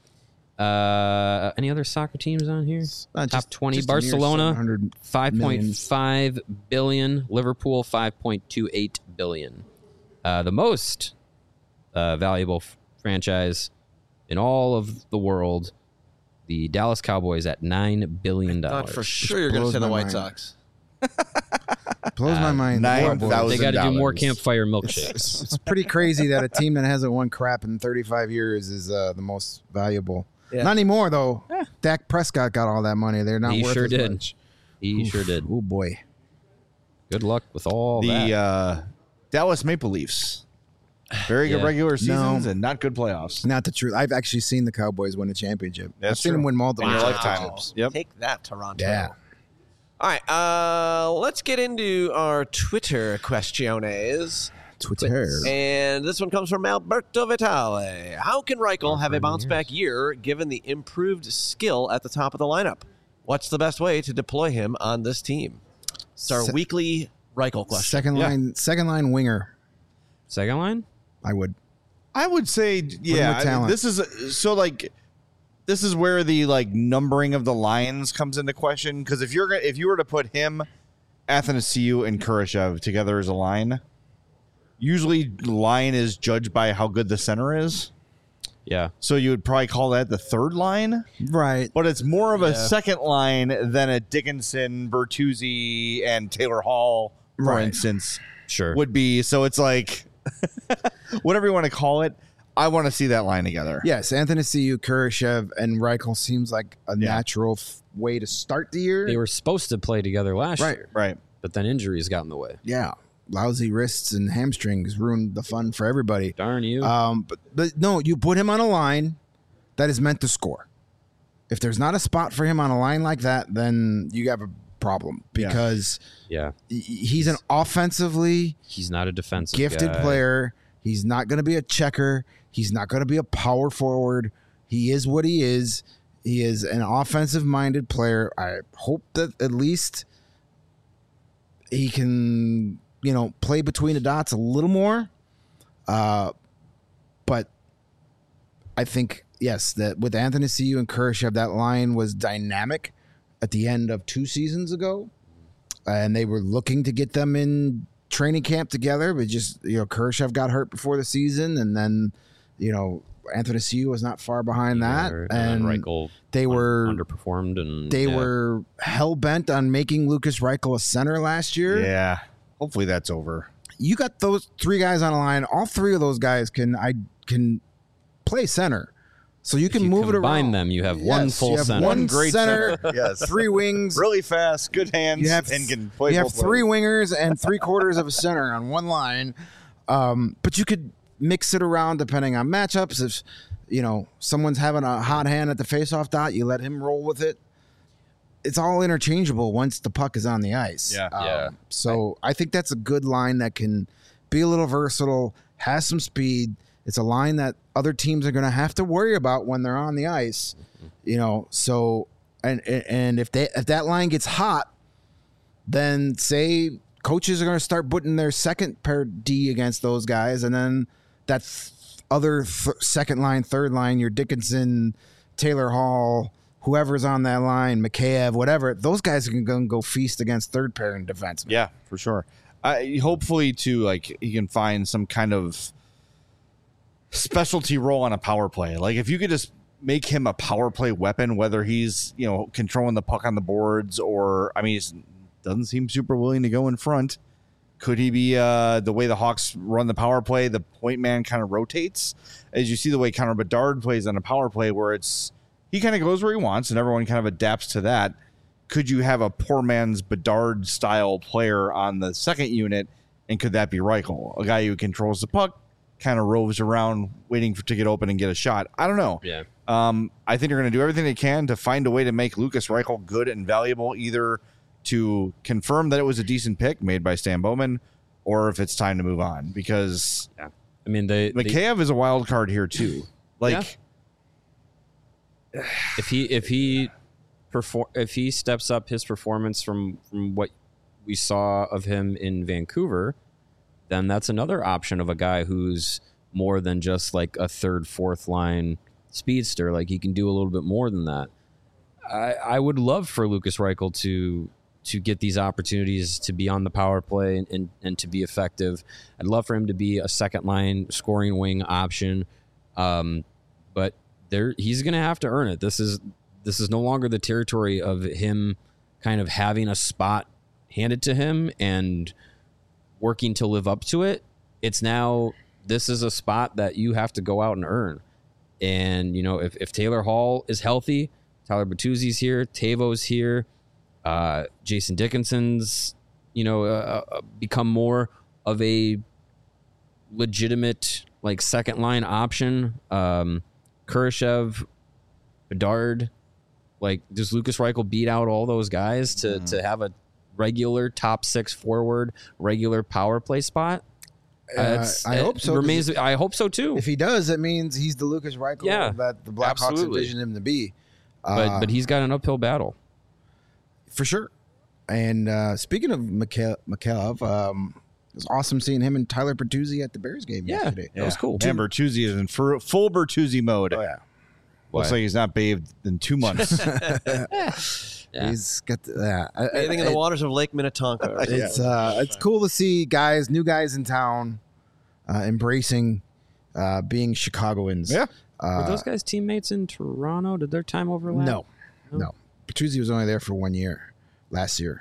Any other soccer teams on here? Top Just 20. just a mere Barcelona, 700 $5.5 billion. Liverpool, $5.28 billion. The most valuable franchise in all of the world, the Dallas Cowboys at $9 billion. Thought for sure you're going to blows say the my White mind. Sox. Blows my mind. 9,000 They got to do more $1,000. campfire milkshakes. It's pretty crazy that a team that hasn't won crap in 35 years is the most valuable. Yeah. Not anymore though. Dak Prescott got all that money. They're not He worth sure as did. much. He sure did. Oh boy. Good luck with all that. The Dallas Maple Leafs. Very good Yeah. regular seasons No. and not good playoffs. Not the truth. I've actually seen the Cowboys win a championship. That's I've seen true. them win multiple In your lifetime. championships. Yep. Take that, Toronto. Yeah. All right. Let's get into our Twitter questiones. Twitter. And this one comes from Alberto Vitale. How can Reichel have a bounce back year given the improved skill at the top of the lineup? What's the best way to deploy him on this team? It's our weekly Reichel question. Second line winger. Second line? I would. I would say, yeah. with talent. This is where the like numbering of the lines comes into question. Because if you were to put him, Athanasiou, and Kurashev together as a line, usually line is judged by how good the center is. Yeah. So you would probably call that the third line, Right. but it's more of a second line than a Dickinson, Bertuzzi, and Taylor Hall, for Right. instance, Sure. would be. So it's like whatever you want to call it. I want to see that line together. Yes, Athanasiou, Kurashev, and Reichel seems like a natural way to start the year. They were supposed to play together last Right. year, Right. but then injuries got in the way. Yeah. Lousy wrists and hamstrings ruined the fun for everybody. Darn you. But no, you put him on a line that is meant to score. If there's not a spot for him on a line like that, then you have a problem because yeah. he's an offensively He's not a defensive gifted guy. player. He's not going to be a checker. He's not going to be a power forward. He is what he is. He is an offensive-minded player. I hope that at least he can, play between the dots a little more. But I think, yes, that with Athanasiou and Kurashev, that line was dynamic at the end of 2 seasons ago. And they were looking to get them in training camp together, but just, Kurashev got hurt before the season. And then, Athanasiou was not far behind that. And Reichel they were underperformed, and they were hell bent on making Lucas Reichel a center last year. Yeah. Hopefully that's over. You got those 3 guys on a line. All 3 of those guys can play center, so you can move it combine around. them. You have one full you have center. one great center, center. Yes. 3 wings. Really fast, good hands, You have and can play you have both 3 ways. wingers and 3/4 of a center on one line. But you could mix it around depending on matchups. If someone's having a hot hand at the faceoff dot, you let him roll with it. It's all interchangeable once the puck is on the ice. Yeah. So I think that's a good line that can be a little versatile, has some speed. It's a line that other teams are going to have to worry about when they're on the ice. So and if that line gets hot, then say coaches are going to start putting their second pair D against those guys, and then that other second line, third line, your Dickinson, Taylor Hall, whoever's on that line, Mikheyev, whatever, those guys can go feast against third pair in defense. Yeah, for sure. Hopefully, too, like he can find some kind of specialty role on a power play. Like if you could just make him a power play weapon, whether he's controlling the puck on the boards or he doesn't seem super willing to go in front. Could he be the way the Hawks run the power play? The point man kind of rotates, as you see the way Connor Bedard plays on a power play, where he kind of goes where he wants, and everyone kind of adapts to that. Could you have a poor man's Bedard style player on the second unit, and could that be Reichel, a guy who controls the puck, kind of roves around waiting to get open and get a shot? I don't know. Yeah. I think they're going to do everything they can to find a way to make Lucas Reichel good and valuable, either to confirm that it was a decent pick made by Stan Bowman, or if it's time to move on, because Mikheyev is a wild card here too. If he steps up his performance from what we saw of him in Vancouver, then that's another option of a guy who's more than just like a third, fourth line speedster. Like he can do a little bit more than that. I would love for Lucas Reichel to get these opportunities to be on the power play and to be effective. I'd love for him to be a second line scoring wing option. But he's going to have to earn it. This is no longer the territory of him kind of having a spot handed to him and working to live up to it. It's now, this is a spot that you have to go out and earn. And, if Taylor Hall is healthy, Tyler Bertuzzi's here, Tavo's here, Jason Dickinson's, become more of a legitimate like second line option. Kurashev, Bedard, like does Lucas Reichel beat out all those guys to have a regular top 6 forward, regular power play spot? I hope so. I hope so too. If he does, it means he's the Lucas Reichel that the Blackhawks envision him to be. But he's got an uphill battle. For sure. And speaking of Mikheyev, it was awesome seeing him and Tyler Bertuzzi at the Bears game yesterday. That was cool. Man, Bertuzzi is in full Bertuzzi mode. Oh yeah. Looks like he's not bathed in 2 months. Yeah. He's got Anything in the waters of Lake Minnetonka. It's cool to see new guys in town embracing being Chicagoans. Yeah. Were those guys teammates in Toronto? Did their time overlap? No. Bertuzzi was only there for 1 year last year.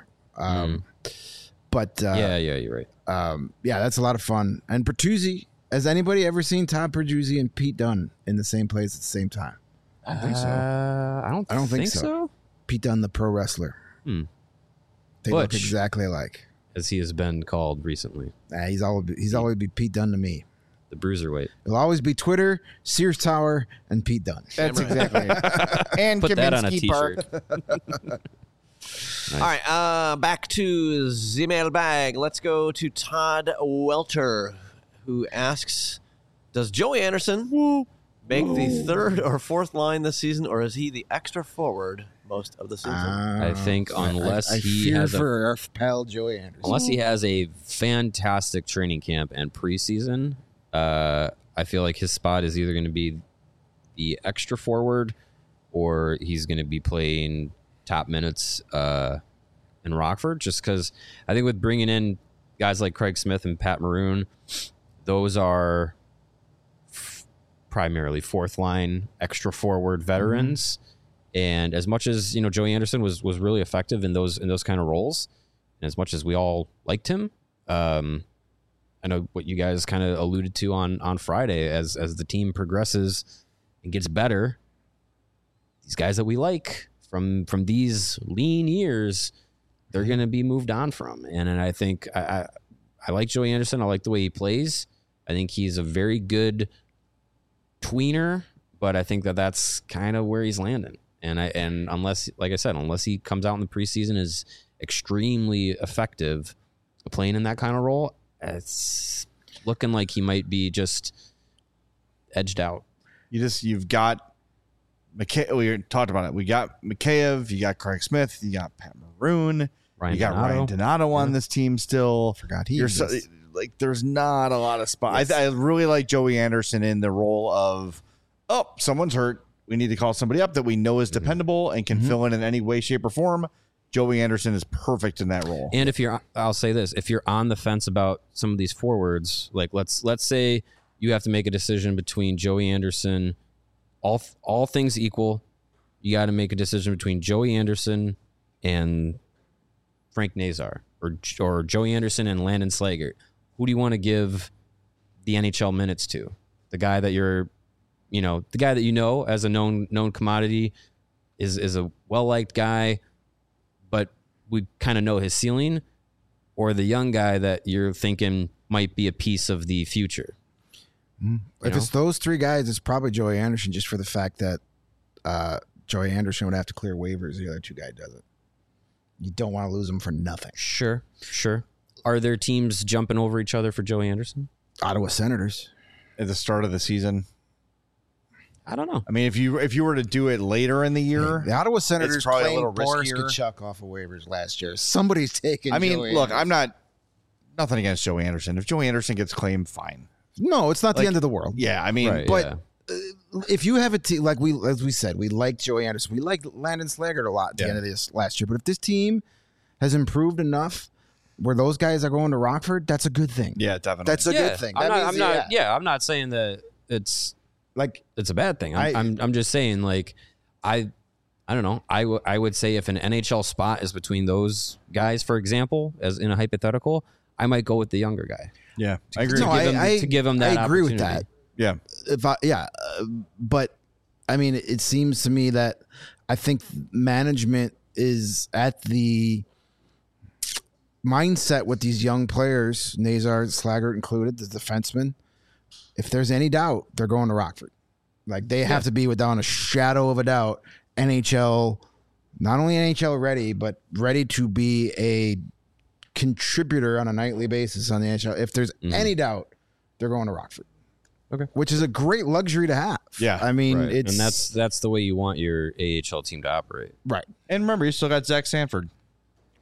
But you're right. that's a lot of fun. And Bertuzzi, has anybody ever seen Todd Bertuzzi and Pete Dunne in the same place at the same time? I don't think so. I don't think so. Pete Dunne, the pro wrestler. They look Butch. exactly alike. As he has been called recently. He's always be Pete Dunne to me. The Bruiserweight. It'll always be Twitter, Sears Tower, and Pete Dunne. That's exactly it. And Put that on a Kaminsky Park. t-shirt. All right, back to the mailbag. Let's go to Todd Welter, who asks, does Joey Anderson make the third or fourth line this season, or is he the extra forward most of the season? I think unless I he fear has for our pal Joey Anderson. unless he has a fantastic training camp and preseason, I feel like his spot is either going to be the extra forward or he's going to be playing top minutes in Rockford, just because I think with bringing in guys like Craig Smith and Pat Maroon, those are primarily fourth line extra forward veterans. And as much as Joey Anderson was really effective in those kind of roles, and as much as we all liked him, I know what you guys kind of alluded to on Friday, as the team progresses and gets better, these guys that we like from these lean years, they're going to be moved on from. And I think I like Joey Anderson. I like the way he plays. I think he's a very good tweener, but I think that's kind of where he's landing. And unless, like I said, unless he comes out in the preseason is extremely effective playing in that kind of role, it's looking like he might be just edged out. You've got we talked about it. We got Mikheyev, you got Craig Smith, you got Pat Maroon, you got Ryan Donato on this team still. Forgot he exists. There's not a lot of spots. I really like Joey Anderson in the role of, someone's hurt. We need to call somebody up that we know is dependable and can fill in any way, shape, or form. Joey Anderson is perfect in that role. And I'll say this, if you're on the fence about some of these forwards, like let's say you have to make a decision between Joey Anderson, all things equal, you got to make a decision between Joey Anderson and Frank Nazar, or Joey Anderson and Landon Slaggert. Who do you want to give the NHL minutes to? The guy that the guy that as a known commodity is a well-liked guy, but we kind of know his ceiling, or the young guy that you're thinking might be a piece of the future? If it's those three guys, it's probably Joey Anderson, just for the fact that Joey Anderson would have to clear waivers. The other two guys doesn't. You don't want to lose them for nothing. Sure. Are there teams jumping over each other for Joey Anderson? Ottawa Senators At the start of the season, I don't know. I mean, if you were to do it later in the year, the Ottawa Senators probably a claimed little Boris riskier. Kachuk off of waivers last year. Somebody's taking. I mean, Joey look, Anderson. I'm nothing against Joey Anderson. If Joey Anderson gets claimed, fine. No, it's not the end of the world. Yeah, I mean, Right, but yeah. if you have a team like as we said, we liked Joey Anderson. We liked Landon Slaggert a lot at the end of this last year. But if this team has improved enough where those guys are going to Rockford, that's a good thing. yeah, definitely. That's a good thing. That means, I'm not saying that it's like a bad thing. I'm just saying, like, I don't know. I would say if an NHL spot is between those guys, for example, as in a hypothetical, I might go with the younger guy. Yeah, I agree. To give him that I agree with opportunity. that. Yeah, But I mean, it seems to me that I think management is at the mindset with these young players, Nazar, Slaggert included, the defenseman. If there's any doubt, they're going to Rockford. Like, they have to be without a shadow of a doubt NHL, not only NHL ready, but ready to be a contributor on a nightly basis on the NHL. If there's any doubt, they're going to Rockford. Okay. Which is a great luxury to have. Yeah. I mean, Right. it's... And that's the way you want your AHL team to operate. Right. and remember, you still got Zach Sanford.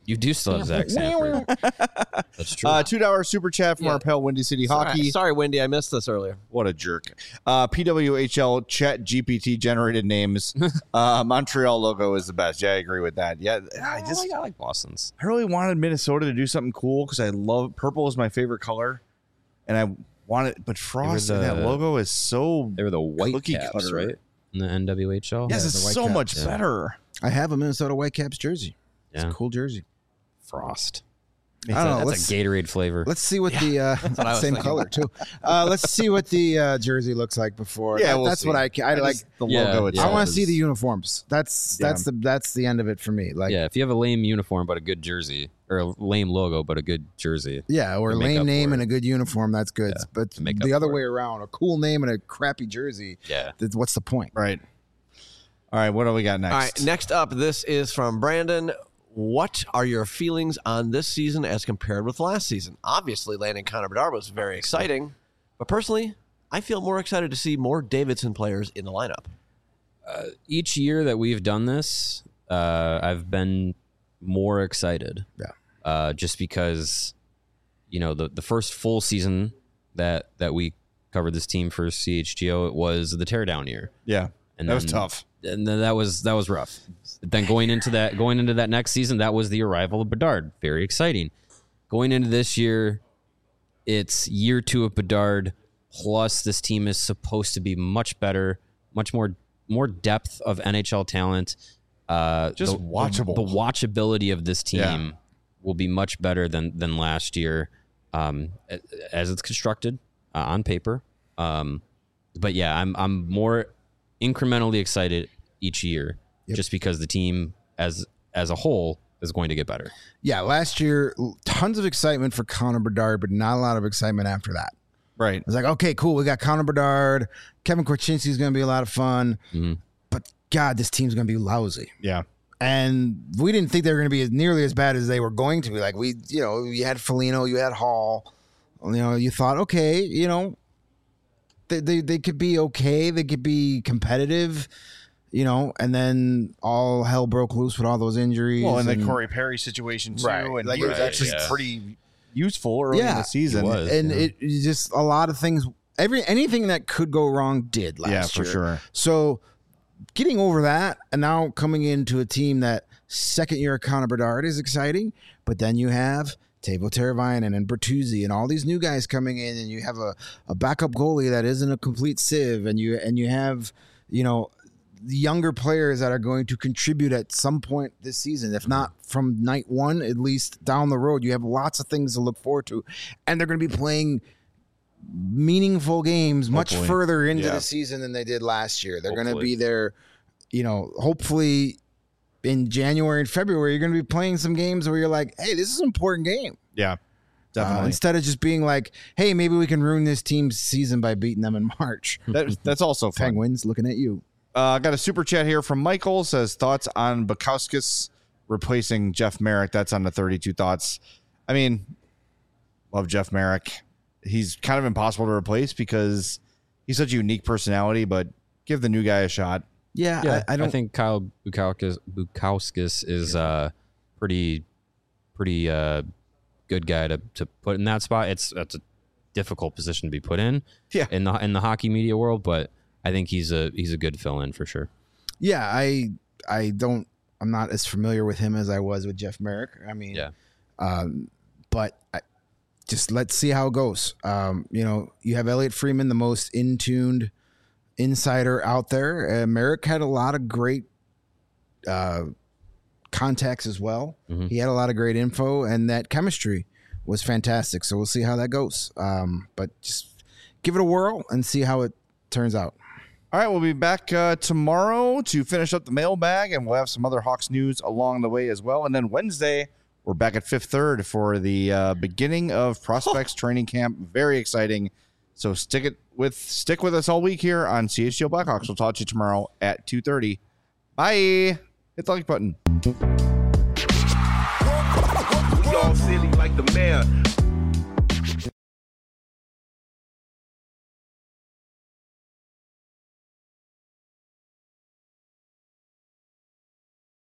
You do still have Zach Sanford. That's true. $2 super chat from our pal Windy City Hockey. Sorry, Wendy, I missed this earlier. What a jerk. PWHL chat GPT generated names. Montreal logo is the best. Yeah, I agree with that. Yeah, I like Boston's. I really wanted Minnesota to do something cool because I love purple is my favorite color, and I wanted. But Frost and that logo is so. They were the white cookie caps, cutter. right? In the NWHL. Yes, the it's white so caps, much yeah. better. I have a Minnesota Whitecaps jersey. It's Yeah. a cool jersey. Frost. I don't know. That's a Gatorade flavor. Let's see what the what I was same thinking. color too. Let's see what the jersey looks like before. Yeah, that's see. what I like. The Yeah, logo yeah. itself. I want to is- see the uniforms. That's the end of it for me. Like yeah, if you have a lame uniform but a good jersey, or a lame logo but a good jersey. yeah, or a to make lame up name for and it. a good uniform. That's good. Yeah, but to make the up other for way around, a cool name and a crappy jersey. Yeah. What's the point? Right. All right, what do we got next? All right, next up, this is from Brandon. What are your feelings on this season as compared with last season? Obviously, landing Connor Bedard was very exciting, but personally, I feel more excited to see more Davidson players in the lineup. Each year that we've done this, I've been more excited. Yeah. Just because, the first full season that we covered this team for CHGO, it was the teardown year. Yeah, And that was then- tough. And then that was rough. Then going into that next season, that was the arrival of Bedard. Very exciting. Going into this year, it's year 2 of Bedard. Plus, this team is supposed to be much better, much more depth of NHL talent. Just watchable. The watchability of this team Yeah. will be much better than last year, as it's constructed on paper. But yeah, I'm more incrementally excited each year, just because the team as a whole is going to get better. Yeah, last year, tons of excitement for Connor Bedard, but not a lot of excitement after that. Right. It's like, okay, cool. We got Connor Bedard. Kevin Korchinski is going to be a lot of fun. Mhm. But God, this team's going to be lousy. Yeah. And we didn't think they were going to be nearly as bad as they were going to be. Like you had Foligno, you had Hall. You thought, okay, they could be okay. They could be competitive, and then all hell broke loose with all those injuries. Well, and the Corey Perry situation too, Right. and Like, he was right, actually yeah. pretty useful early in the season. he was. and Yeah. it just a lot of things. Anything that could go wrong did last Yeah, year. for sure. So getting over that and now coming into a team that second year of Connor Bedard is exciting, but then you have Teuvo Teravainen and Bertuzzi and all these new guys coming in, and you have a backup goalie that isn't a complete sieve, and you have the younger players that are going to contribute at some point this season, if not from night one, at least down the road. You have lots of things to look forward to, and they're going to be playing meaningful games much Hopefully. further into Yeah. the season than they did last year. They're going to Hopefully. be there, hopefully in January and February, you're going to be playing some games where you're like, hey, this is an important game. Yeah, definitely. Instead of just being like, hey, maybe we can ruin this team's season by beating them in March. That's also fun. Penguins looking at you. I got a super chat here from Michael. Says thoughts on Bukowskis replacing Jeff Merrick. That's on the 32 thoughts. I mean, love Jeff Merrick. He's kind of impossible to replace because he's such a unique personality. But give the new guy a shot. Yeah, I don't think Kyle Bukowskis is pretty good guy to put in that spot. That's a difficult position to be put in. Yeah. in the hockey media world, but I think he's a good fill in for sure. Yeah, I'm not as familiar with him as I was with Jeff Merrick. I mean, Yeah. But just let's see how it goes. You have Elliot Freeman, the most in-tuned insider out there. Merrick had a lot of great contacts as well. Mhm. He had a lot of great info, and that chemistry was fantastic. So we'll see how that goes. But just give it a whirl and see how it turns out. All right, we'll be back tomorrow to finish up the mailbag, and we'll have some other Hawks news along the way as well. And then Wednesday, we're back at Fifth Third for the beginning of Prospects training camp. Very exciting. So stick with us all week here on CHGO Blackhawks. We'll talk to you tomorrow at 2:30. Bye. Hit the like button. We all silly like the mayor.